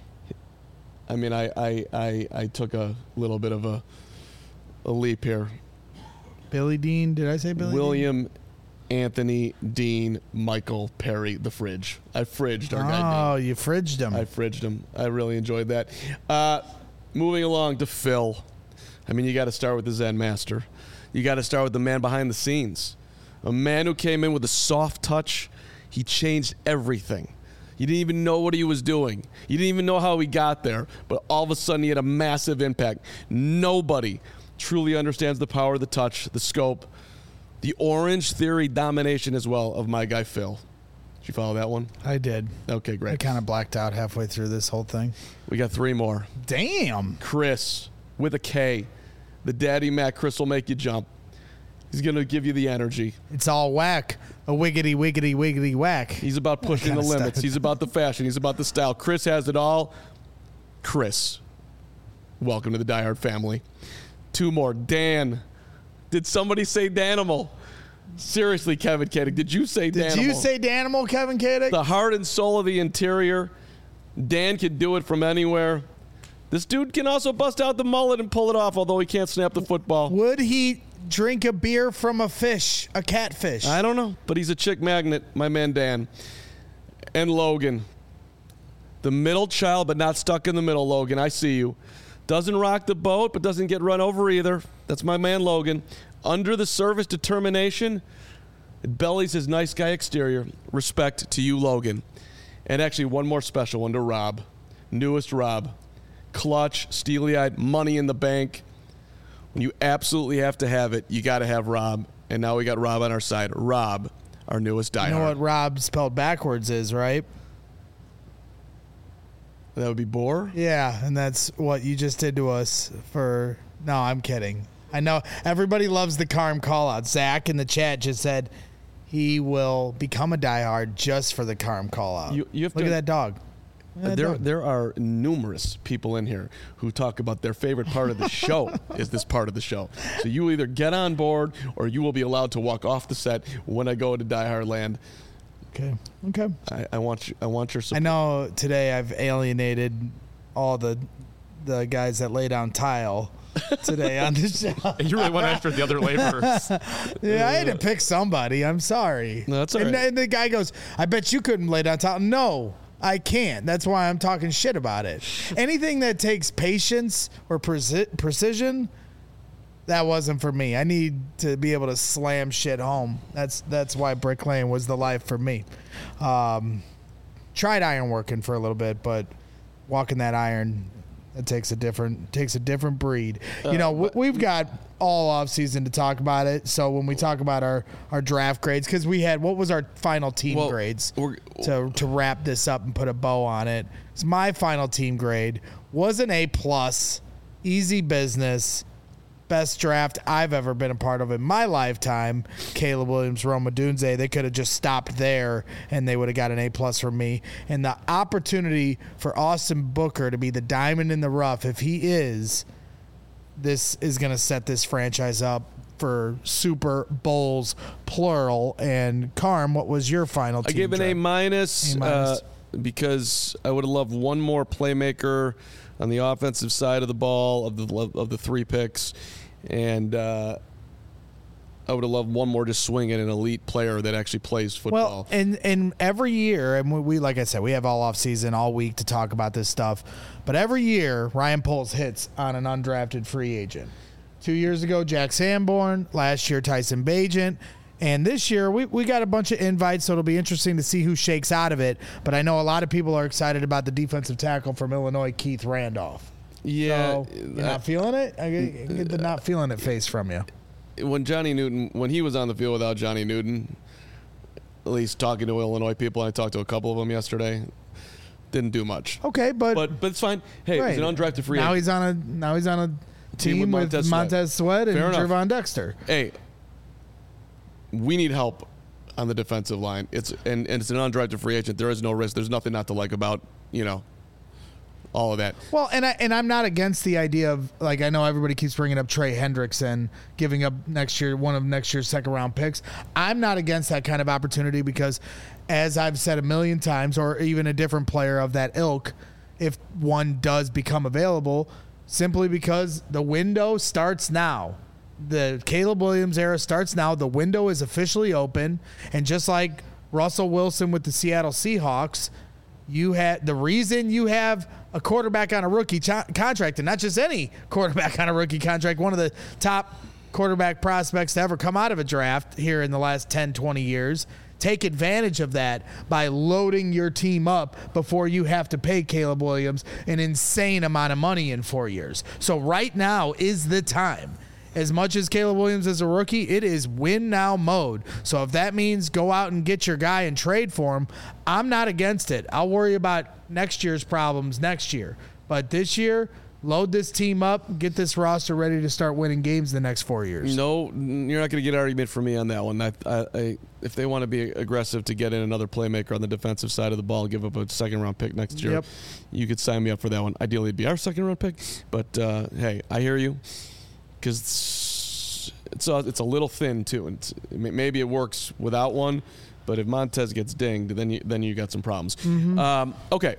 I mean, I, I, I, I took a little bit of a, a leap here. Billy Dean. Did I say Billy William Anthony Dean Michael Perry, the fridge. I fridged our guy. Oh, Dean. you fridged him. I fridged him. I really enjoyed that. Uh, moving along to Phil. I mean, you got to start with the Zen Master. You got to start with the man behind the scenes. A man who came in with a soft touch. He changed everything. You didn't even know what he was doing. You didn't even know how he got there. But all of a sudden, he had a massive impact. Nobody truly understands the power of the touch, the scope, the Orange Theory domination as well of my guy Phil. Did you follow that one? I did. Okay, great. I kind of blacked out halfway through this whole thing. We got three more. Damn. Chris with a K. The Daddy Mac. Chris will make you jump. He's going to give you the energy. It's all whack. A wiggity, wiggity, wiggity whack. He's about pushing the limits. He's about the fashion. He's about the style. Chris has it all. Chris, welcome to the Die Hard family. Two more. Dan. Did somebody say Danimal? Seriously, Kevin Koenig, did you say Danimal? Did you say Danimal, Kevin Koenig? The heart and soul of the interior. Dan can do it from anywhere. This dude can also bust out the mullet and pull it off, although he can't snap the football. Would he drink a beer from a fish, a catfish? I don't know, but he's a chick magnet, my man Dan. And Logan. The middle child, but not stuck in the middle, Logan. I see you. Doesn't rock the boat, but doesn't get run over either. That's my man, Logan. Under the surface determination, it bellies his nice guy exterior. Respect to you, Logan. And actually, one more special one to Rob. Newest Rob. Clutch, steely-eyed, money in the bank. When you absolutely have to have it, you got to have Rob. And now we got Rob on our side. Rob, our newest diehard. You know what Rob spelled backwards is, right? That would be Boar? Yeah, and that's what you just did to us for... No, I'm kidding. I know everybody loves the Carm call-out. Zach in the chat just said he will become a diehard just for the Carm call-out. You, you have Look to, at that dog. Look at that There, dog. there are numerous people in here who talk about their favorite part of the show is this part of the show. So you either get on board or you will be allowed to walk off the set when I go to Die Hard Land. Okay. Okay. I, I want you, I want your support. I know today I've alienated all the the guys that lay down tile today on the show. You really went after the other laborers. Yeah, I had to pick somebody. I'm sorry. No, that's all and, right. and the guy goes, I bet you couldn't lay down tile. No, I can't. That's why I'm talking shit about it. Anything that takes patience or preci- precision, that wasn't for me. I need to be able to slam shit home. That's that's why bricklaying was the life for me. Um, tried ironworking for a little bit, but walking that iron, it takes a different takes a different breed. Uh, you know, w- we've got all off season to talk about it. So when we talk about our, our draft grades, because we had what was our final team Well, grades we're- to to wrap this up and put a bow on it. So my final team grade was an A plus, easy business. Best draft I've ever been a part of in my lifetime. Caleb Williams, Rome Odunze. They could have just stopped there and they would have got an A plus from me. And the opportunity for Austin Booker to be the diamond in the rough, if he is, this is going to set this franchise up for Super Bowls, plural. And Carm, what was your final I team gave an A draft? minus, A minus. uh, because I would have loved one more playmaker on the offensive side of the ball of the of the three picks, and uh, I would have loved one more just swinging an elite player that actually plays football. Well, and and every year, and we, we like I said, we have all off season, all week to talk about this stuff. But every year, Ryan Poles hits on an undrafted free agent. Two years ago, Jack Sanborn. Last year, Tyson Bagent. And this year, we, we got a bunch of invites, so it'll be interesting to see who shakes out of it. But I know a lot of people are excited about the defensive tackle from Illinois, Keith Randolph. yeah, So, you're not feeling it? I get, I get the not feeling it face from you. when Johnny Newton, when he was on the field without Johnny Newton, at least talking to Illinois people, and I talked to a couple of them yesterday, didn't do much. Okay, but, But but it's fine. Hey, right. he's an undrafted free now agent. he's on a now he's on a team, Team with with Montez Montez, Sweat. Sweat and Fair enough. Trevon Dexter. Hey, we need help on the defensive line. It's and, and it's an undrafted free agent. There is no risk. There's nothing not to like about, you know, all of that. Well, and I and I'm not against the idea of, like, I know everybody keeps bringing up Trey Hendrickson giving up next year one of next year's second round picks. I'm not against that kind of opportunity because, as I've said a million times, or even a different player of that ilk, if one does become available, simply because the window starts now. The Caleb Williams era starts now. The window is officially open, and just like Russell Wilson with the Seattle Seahawks, you had the reason you have a quarterback on a rookie ch- contract, and not just any quarterback on a rookie contract, one of the top quarterback prospects to ever come out of a draft here in the last ten, twenty years. Take advantage of that by loading your team up before you have to pay Caleb Williams an insane amount of money in four years. So right now is the time. As much as Caleb Williams is a rookie, it is win now mode. So if that means go out and get your guy and trade for him, I'm not against it. I'll worry about next year's problems next year. But this year, load this team up, get this roster ready to start winning games the next four years. No, you're not going to get an argument from me on that one. I, I, I, if they want to be aggressive to get in another playmaker on the defensive side of the ball, give up a second-round pick next year, Yep. you could sign me up for that one. Ideally, it'd be our second-round pick. But, uh, hey, I hear you. Because it's, it's, a, it's a little thin, too. And it's, maybe it works without one. But if Montez gets dinged, then you, then you got some problems. Mm-hmm. Um, okay.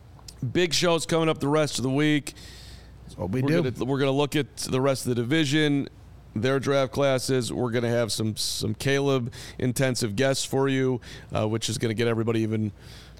Big shows coming up the rest of the week. What we we're do. Gonna, we're going to look at the rest of the division, their draft classes. We're going to have some some Caleb intensive guests for you, uh, which is going to get everybody even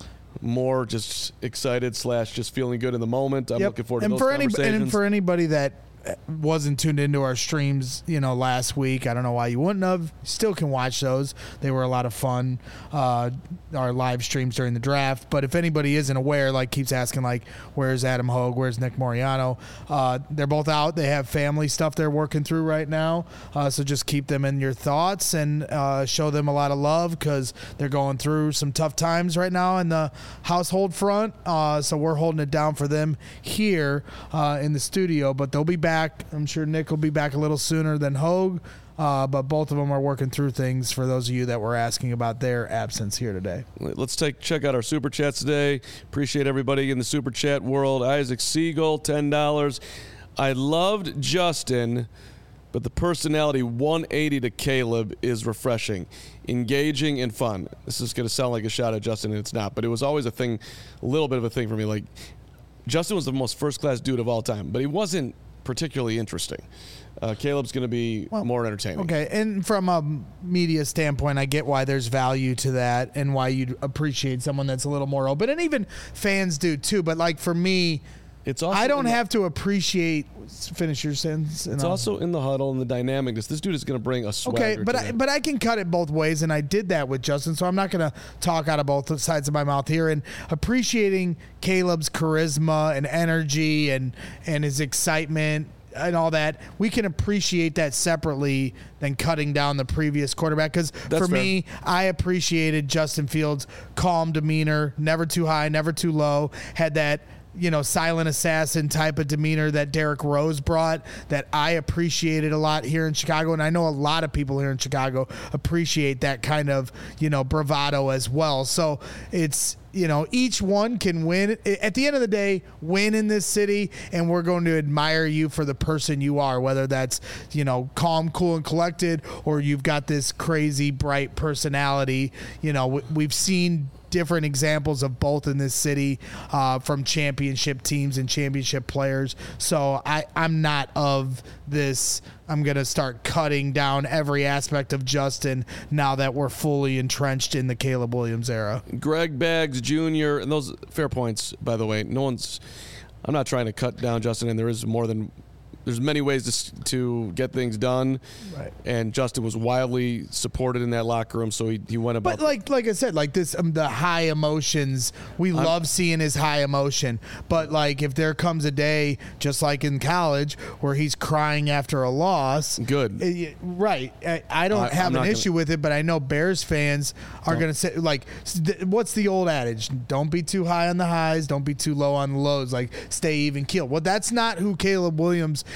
more just excited slash just feeling good in the moment. I'm Yep. looking forward to and those for any, conversations. And for anybody that wasn't tuned into our streams, you know, last week, I don't know why you wouldn't have. Still can watch those. They were a lot of fun. Uh, our live streams during the draft. But if anybody isn't aware, like keeps asking, like, where's Adam Hogue? Where's Nick Moriano? Uh, they're both out. They have family stuff they're working through right now. Uh, so just keep them in your thoughts and uh, show them a lot of love because they're going through some tough times right now in the household front. Uh, so we're holding it down for them here uh, in the studio. But they'll be back. I'm sure Nick will be back a little sooner than Hogue. Uh, but both of them are working through things for those of you that were asking about their absence here today. Let's take check out our Super Chats today. Appreciate everybody in the Super Chat world. Isaac Siegel, ten dollars. I loved Justin, but the personality one eighty to Caleb is refreshing, engaging, and fun. This is going to sound like a shot at Justin, and it's not, but it was always a thing, a little bit of a thing for me. Like, Justin was the most first-class dude of all time, but he wasn't particularly interesting. Uh, Caleb's going to be Well, more entertaining. Okay, and from a media standpoint, I get why there's value to that and why you'd appreciate someone that's a little more open, and even fans do too. But like for me, It's also I don't in the- have to appreciate. Finish your sentence. and It's I'll- also in the huddle and the dynamicness. This dude is going to bring a swagger. Okay, but to I, that. but I can cut it both ways, and I did that with Justin, so I'm not going to talk out of both sides of my mouth here. And appreciating Caleb's charisma and energy and and his excitement and all that, we can appreciate that separately than cutting down the previous quarterback. Because for fair. me, I appreciated Justin Fields' calm demeanor, never too high, never too low, had that, you know, silent assassin type of demeanor that Derrick Rose brought that I appreciated a lot here in Chicago. And I know a lot of people here in Chicago appreciate that kind of, you know, bravado as well. So it's, you know, each one can win. At the end of the day, win in this city, and we're going to admire you for the person you are, whether that's, you know, calm, cool, and collected, or you've got this crazy, bright personality. You know, we've seen different examples of both in this city uh, from championship teams and championship players. So I, I'm not of this, I'm going to start cutting down every aspect of Justin now that we're fully entrenched in the Caleb Williams era. Greg Baggs Junior, and those fair points, by the way. No one's. I'm not trying to cut down Justin, and there is more than. There's many ways to to get things done, Right. and Justin was wildly supported in that locker room, so he, he went about. But like like I said, like this, um, the high emotions, we I'm- love seeing his high emotion. But like if there comes a day, just like in college, where he's crying after a loss, Good. uh, right? I, I don't I- have I'm an not issue gonna- with it, but I know Bears fans are Don't. going to say like, s- th- what's the old adage? Don't be too high on the highs, don't be too low on the lows. Like stay even keel. Well, that's not who Caleb Williams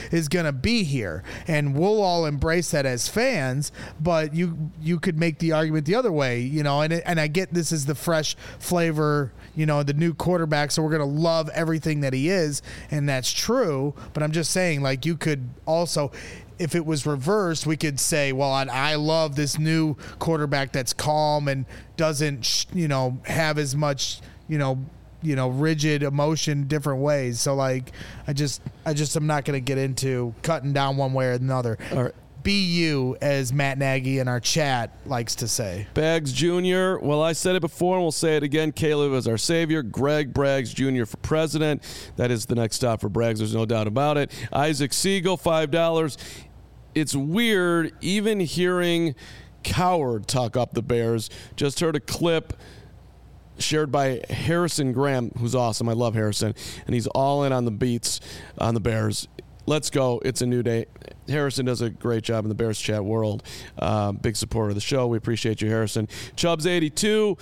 is going to be here, and we'll all embrace that as fans. But you you could make the argument the other way, you know. And it, and I get this is the fresh flavor, you know, the new quarterback, so we're going to love everything that he is, and that's true. But I'm just saying, like, you could also, if it was reversed, we could say, well, I, I love this new quarterback that's calm and doesn't, you know, have as much, you know, you know, rigid emotion different ways. So, like, I just, I just, I'm not going to get into cutting down one way or another. All right. Be you, as Matt Nagy in our chat likes to say. Braggs Junior Well, I said it before and we'll say it again. Caleb is our savior. Greg Braggs Junior for president. That is the next stop for Braggs. There's no doubt about it. Isaac Siegel, five dollars. It's weird even hearing Coward talk up the Bears. Just heard a clip shared by Harrison Graham, who's awesome. I love Harrison. And he's all in on the beats on the Bears. Let's go. It's a new day. Harrison does a great job in the Bears chat world. Uh, big supporter of the show. We appreciate you, Harrison. Chubbs eighty-two.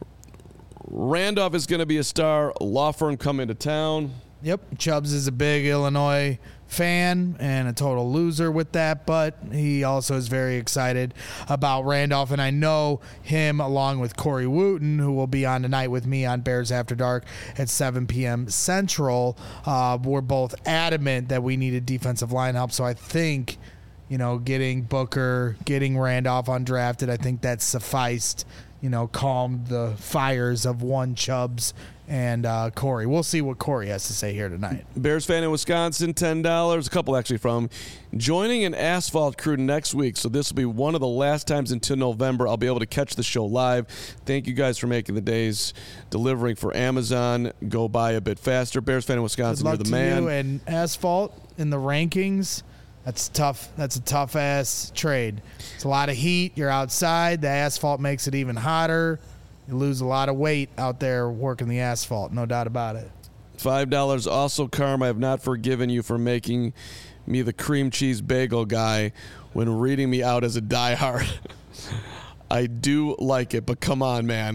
Randolph is going to be a star. Law firm coming to town. Yep. Chubbs is a big Illinois fan and a total loser with that, but he also is very excited about Randolph, and I know him along with Corey Wooten, who will be on tonight with me on Bears After Dark at seven p.m. Central. Uh, we're both adamant that we need a defensive line help, so I think, you know, getting Booker, getting Randolph undrafted, I think that sufficed, you know, calmed the fires of one Chubbs and uh, Corey. We'll see what Corey has to say here tonight. Bears fan in Wisconsin, ten dollars. A couple actually from joining an asphalt crew next week. So this will be one of the last times until November I'll be able to catch the show live. Thank you guys for making the days delivering for Amazon go by a bit faster. Bears fan in Wisconsin, Good luck you're the to man. You and asphalt in the rankings. That's tough. That's a tough ass trade. It's a lot of heat. You're outside. The asphalt makes it even hotter. You lose a lot of weight out there working the asphalt, no doubt about it. five dollars. Also, Carm, I have not forgiven you for making me the cream cheese bagel guy when reading me out as a diehard. I do like it, but come on, man.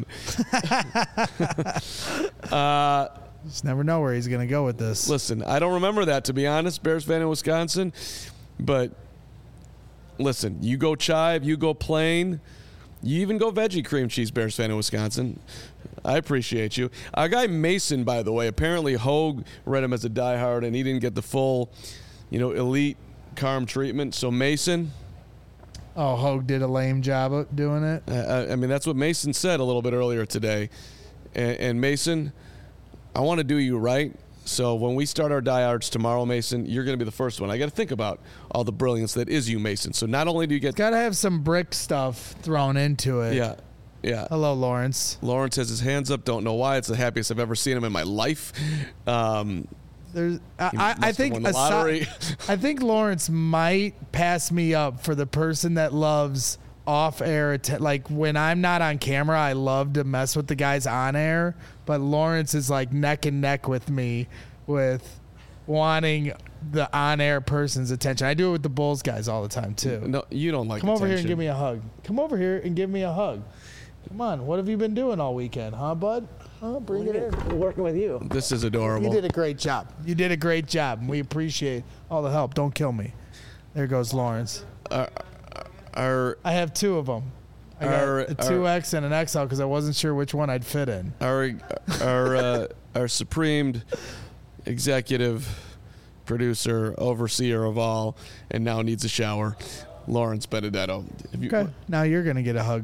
uh, Just never know where he's going to go with this. Listen, I don't remember that, to be honest, Bears fan in Wisconsin. But listen, you go chive, you go plain. You even go veggie cream cheese, Bears fan in Wisconsin. I appreciate you. Our guy Mason, by the way, apparently Hogue read him as a diehard, and he didn't get the full, you know, elite Carm treatment. So Mason. Oh, Hogue did a lame job of doing it? Uh, I mean, that's what Mason said a little bit earlier today. And, and Mason, I want to do you right. So when we start our diehards tomorrow, Mason, you're going to be the first one. I got to think about all the brilliance that is you, Mason. So not only do you get... Got to have some brick stuff thrown into it. Yeah, yeah. Hello, Lawrence. Lawrence has his hands up. Don't know why. It's the happiest I've ever seen him in my life. Um, There's, I, he I, must I have think won the aside- lottery. I think Lawrence might pass me up for the person that loves off-air. Att- like when I'm not on camera, I love to mess with the guys on air. But Lawrence is like neck and neck with me with wanting the on-air person's attention. I do it with the Bulls guys all the time too. No, you don't like Come over here and attention. give me a hug. Come over here and give me a hug. Come on. What have you been doing all weekend, huh, bud? Huh? Bring it in. Working with you. This is adorable. You did a great job. You did a great job. We appreciate all the help. Don't kill me. There goes Lawrence. Our, our, I have two of them. I Our- got a two X and an X L because I wasn't sure which one I'd fit in. our, our, uh, our supreme executive producer, overseer of all, and now needs a shower, Lawrence Benedetto. Have you- Okay. Now you're gonna get a hug.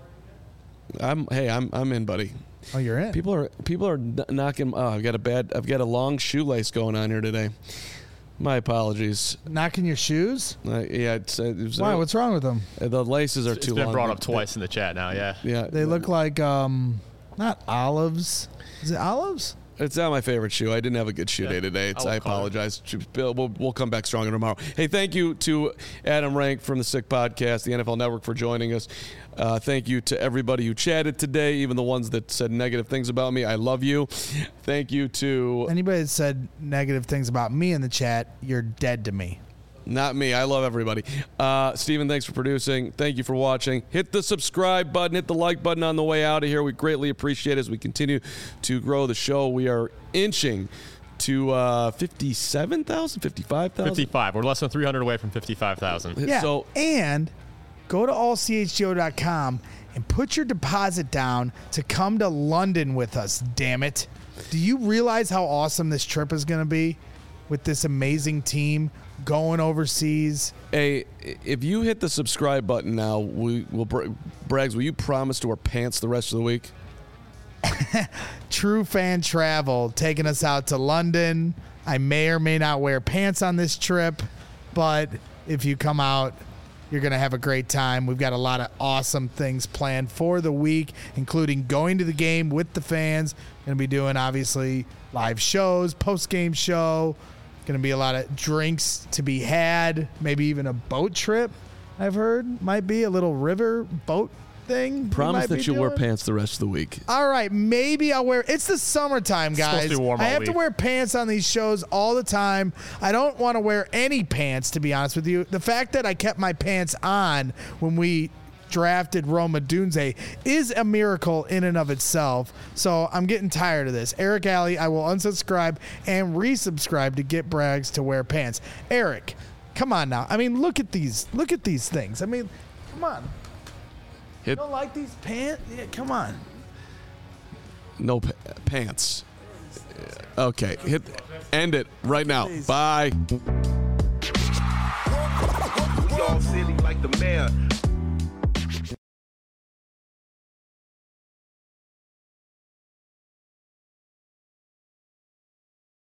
I'm. Hey, I'm. I'm in, buddy. Oh, you're in. People are. People are kn- knocking. Oh, I've got a bad. I've got a long shoelace going on here today. My apologies. Knocking your shoes? Uh, yeah. It's, uh, it was, Why? What's wrong with them? uh, the laces are It's too been long. brought up They- twice in the chat now, yeah. Yeah. They look like um, not olives. Is it olives? It's not my favorite shoe. I didn't have a good shoe Yeah. day today. It's, I I will call it. apologize. Bill, we'll, we'll come back stronger tomorrow. Hey, thank you to Adam Rank from the Sick Podcast, the N F L Network, for joining us. Uh, thank you to everybody who chatted today, even the ones that said negative things about me. I love you. Thank you to Anybody that said negative things about me in the chat, you're dead to me. not me. I love everybody. Uh, Steven, thanks for producing. Thank you for watching. Hit the subscribe button. Hit the like button on the way out of here. We greatly appreciate it as we continue to grow the show. We are inching to uh, fifty-seven thousand, fifty-five thousand. fifty-five. We're less than three hundred away from fifty-five thousand. Yeah. So, and go to all c h g o dot com and put your deposit down to come to London with us, damn it. Do you realize how awesome this trip is going to be with this amazing team going overseas? hey, if you hit the subscribe button now, we will Braggs, will you promise to wear pants the rest of the week? True Fan Travel taking us out to London. I may or may not wear pants on this trip, but if you come out, you're going to have a great time. We've got a lot of awesome things planned for the week, including going to the game with the fans. Going to be doing, obviously, live shows, post-game show. Going to be a lot of drinks to be had, maybe even a boat trip, I've heard. Might be a little river boat thing. Promise that you'll wear doing. pants the rest of the week. All right, maybe I'll wear. It's the summertime, guys. supposed to be warm I all have to week. wear pants on these shows all the time. I don't want to wear any pants, to be honest with you. The fact that I kept my pants on when we drafted Roma Dunze is a miracle in and of itself. So I'm getting tired of this. Eric Alley, I will unsubscribe and resubscribe to get Braggs to wear pants. Eric, come on now. I mean, look at these. Look at these things. I mean, come on. Hit You don't like these pants? Yeah, come on. no pa- pants. Okay, hit end it right now. Please. Bye. We all silly like the mayor.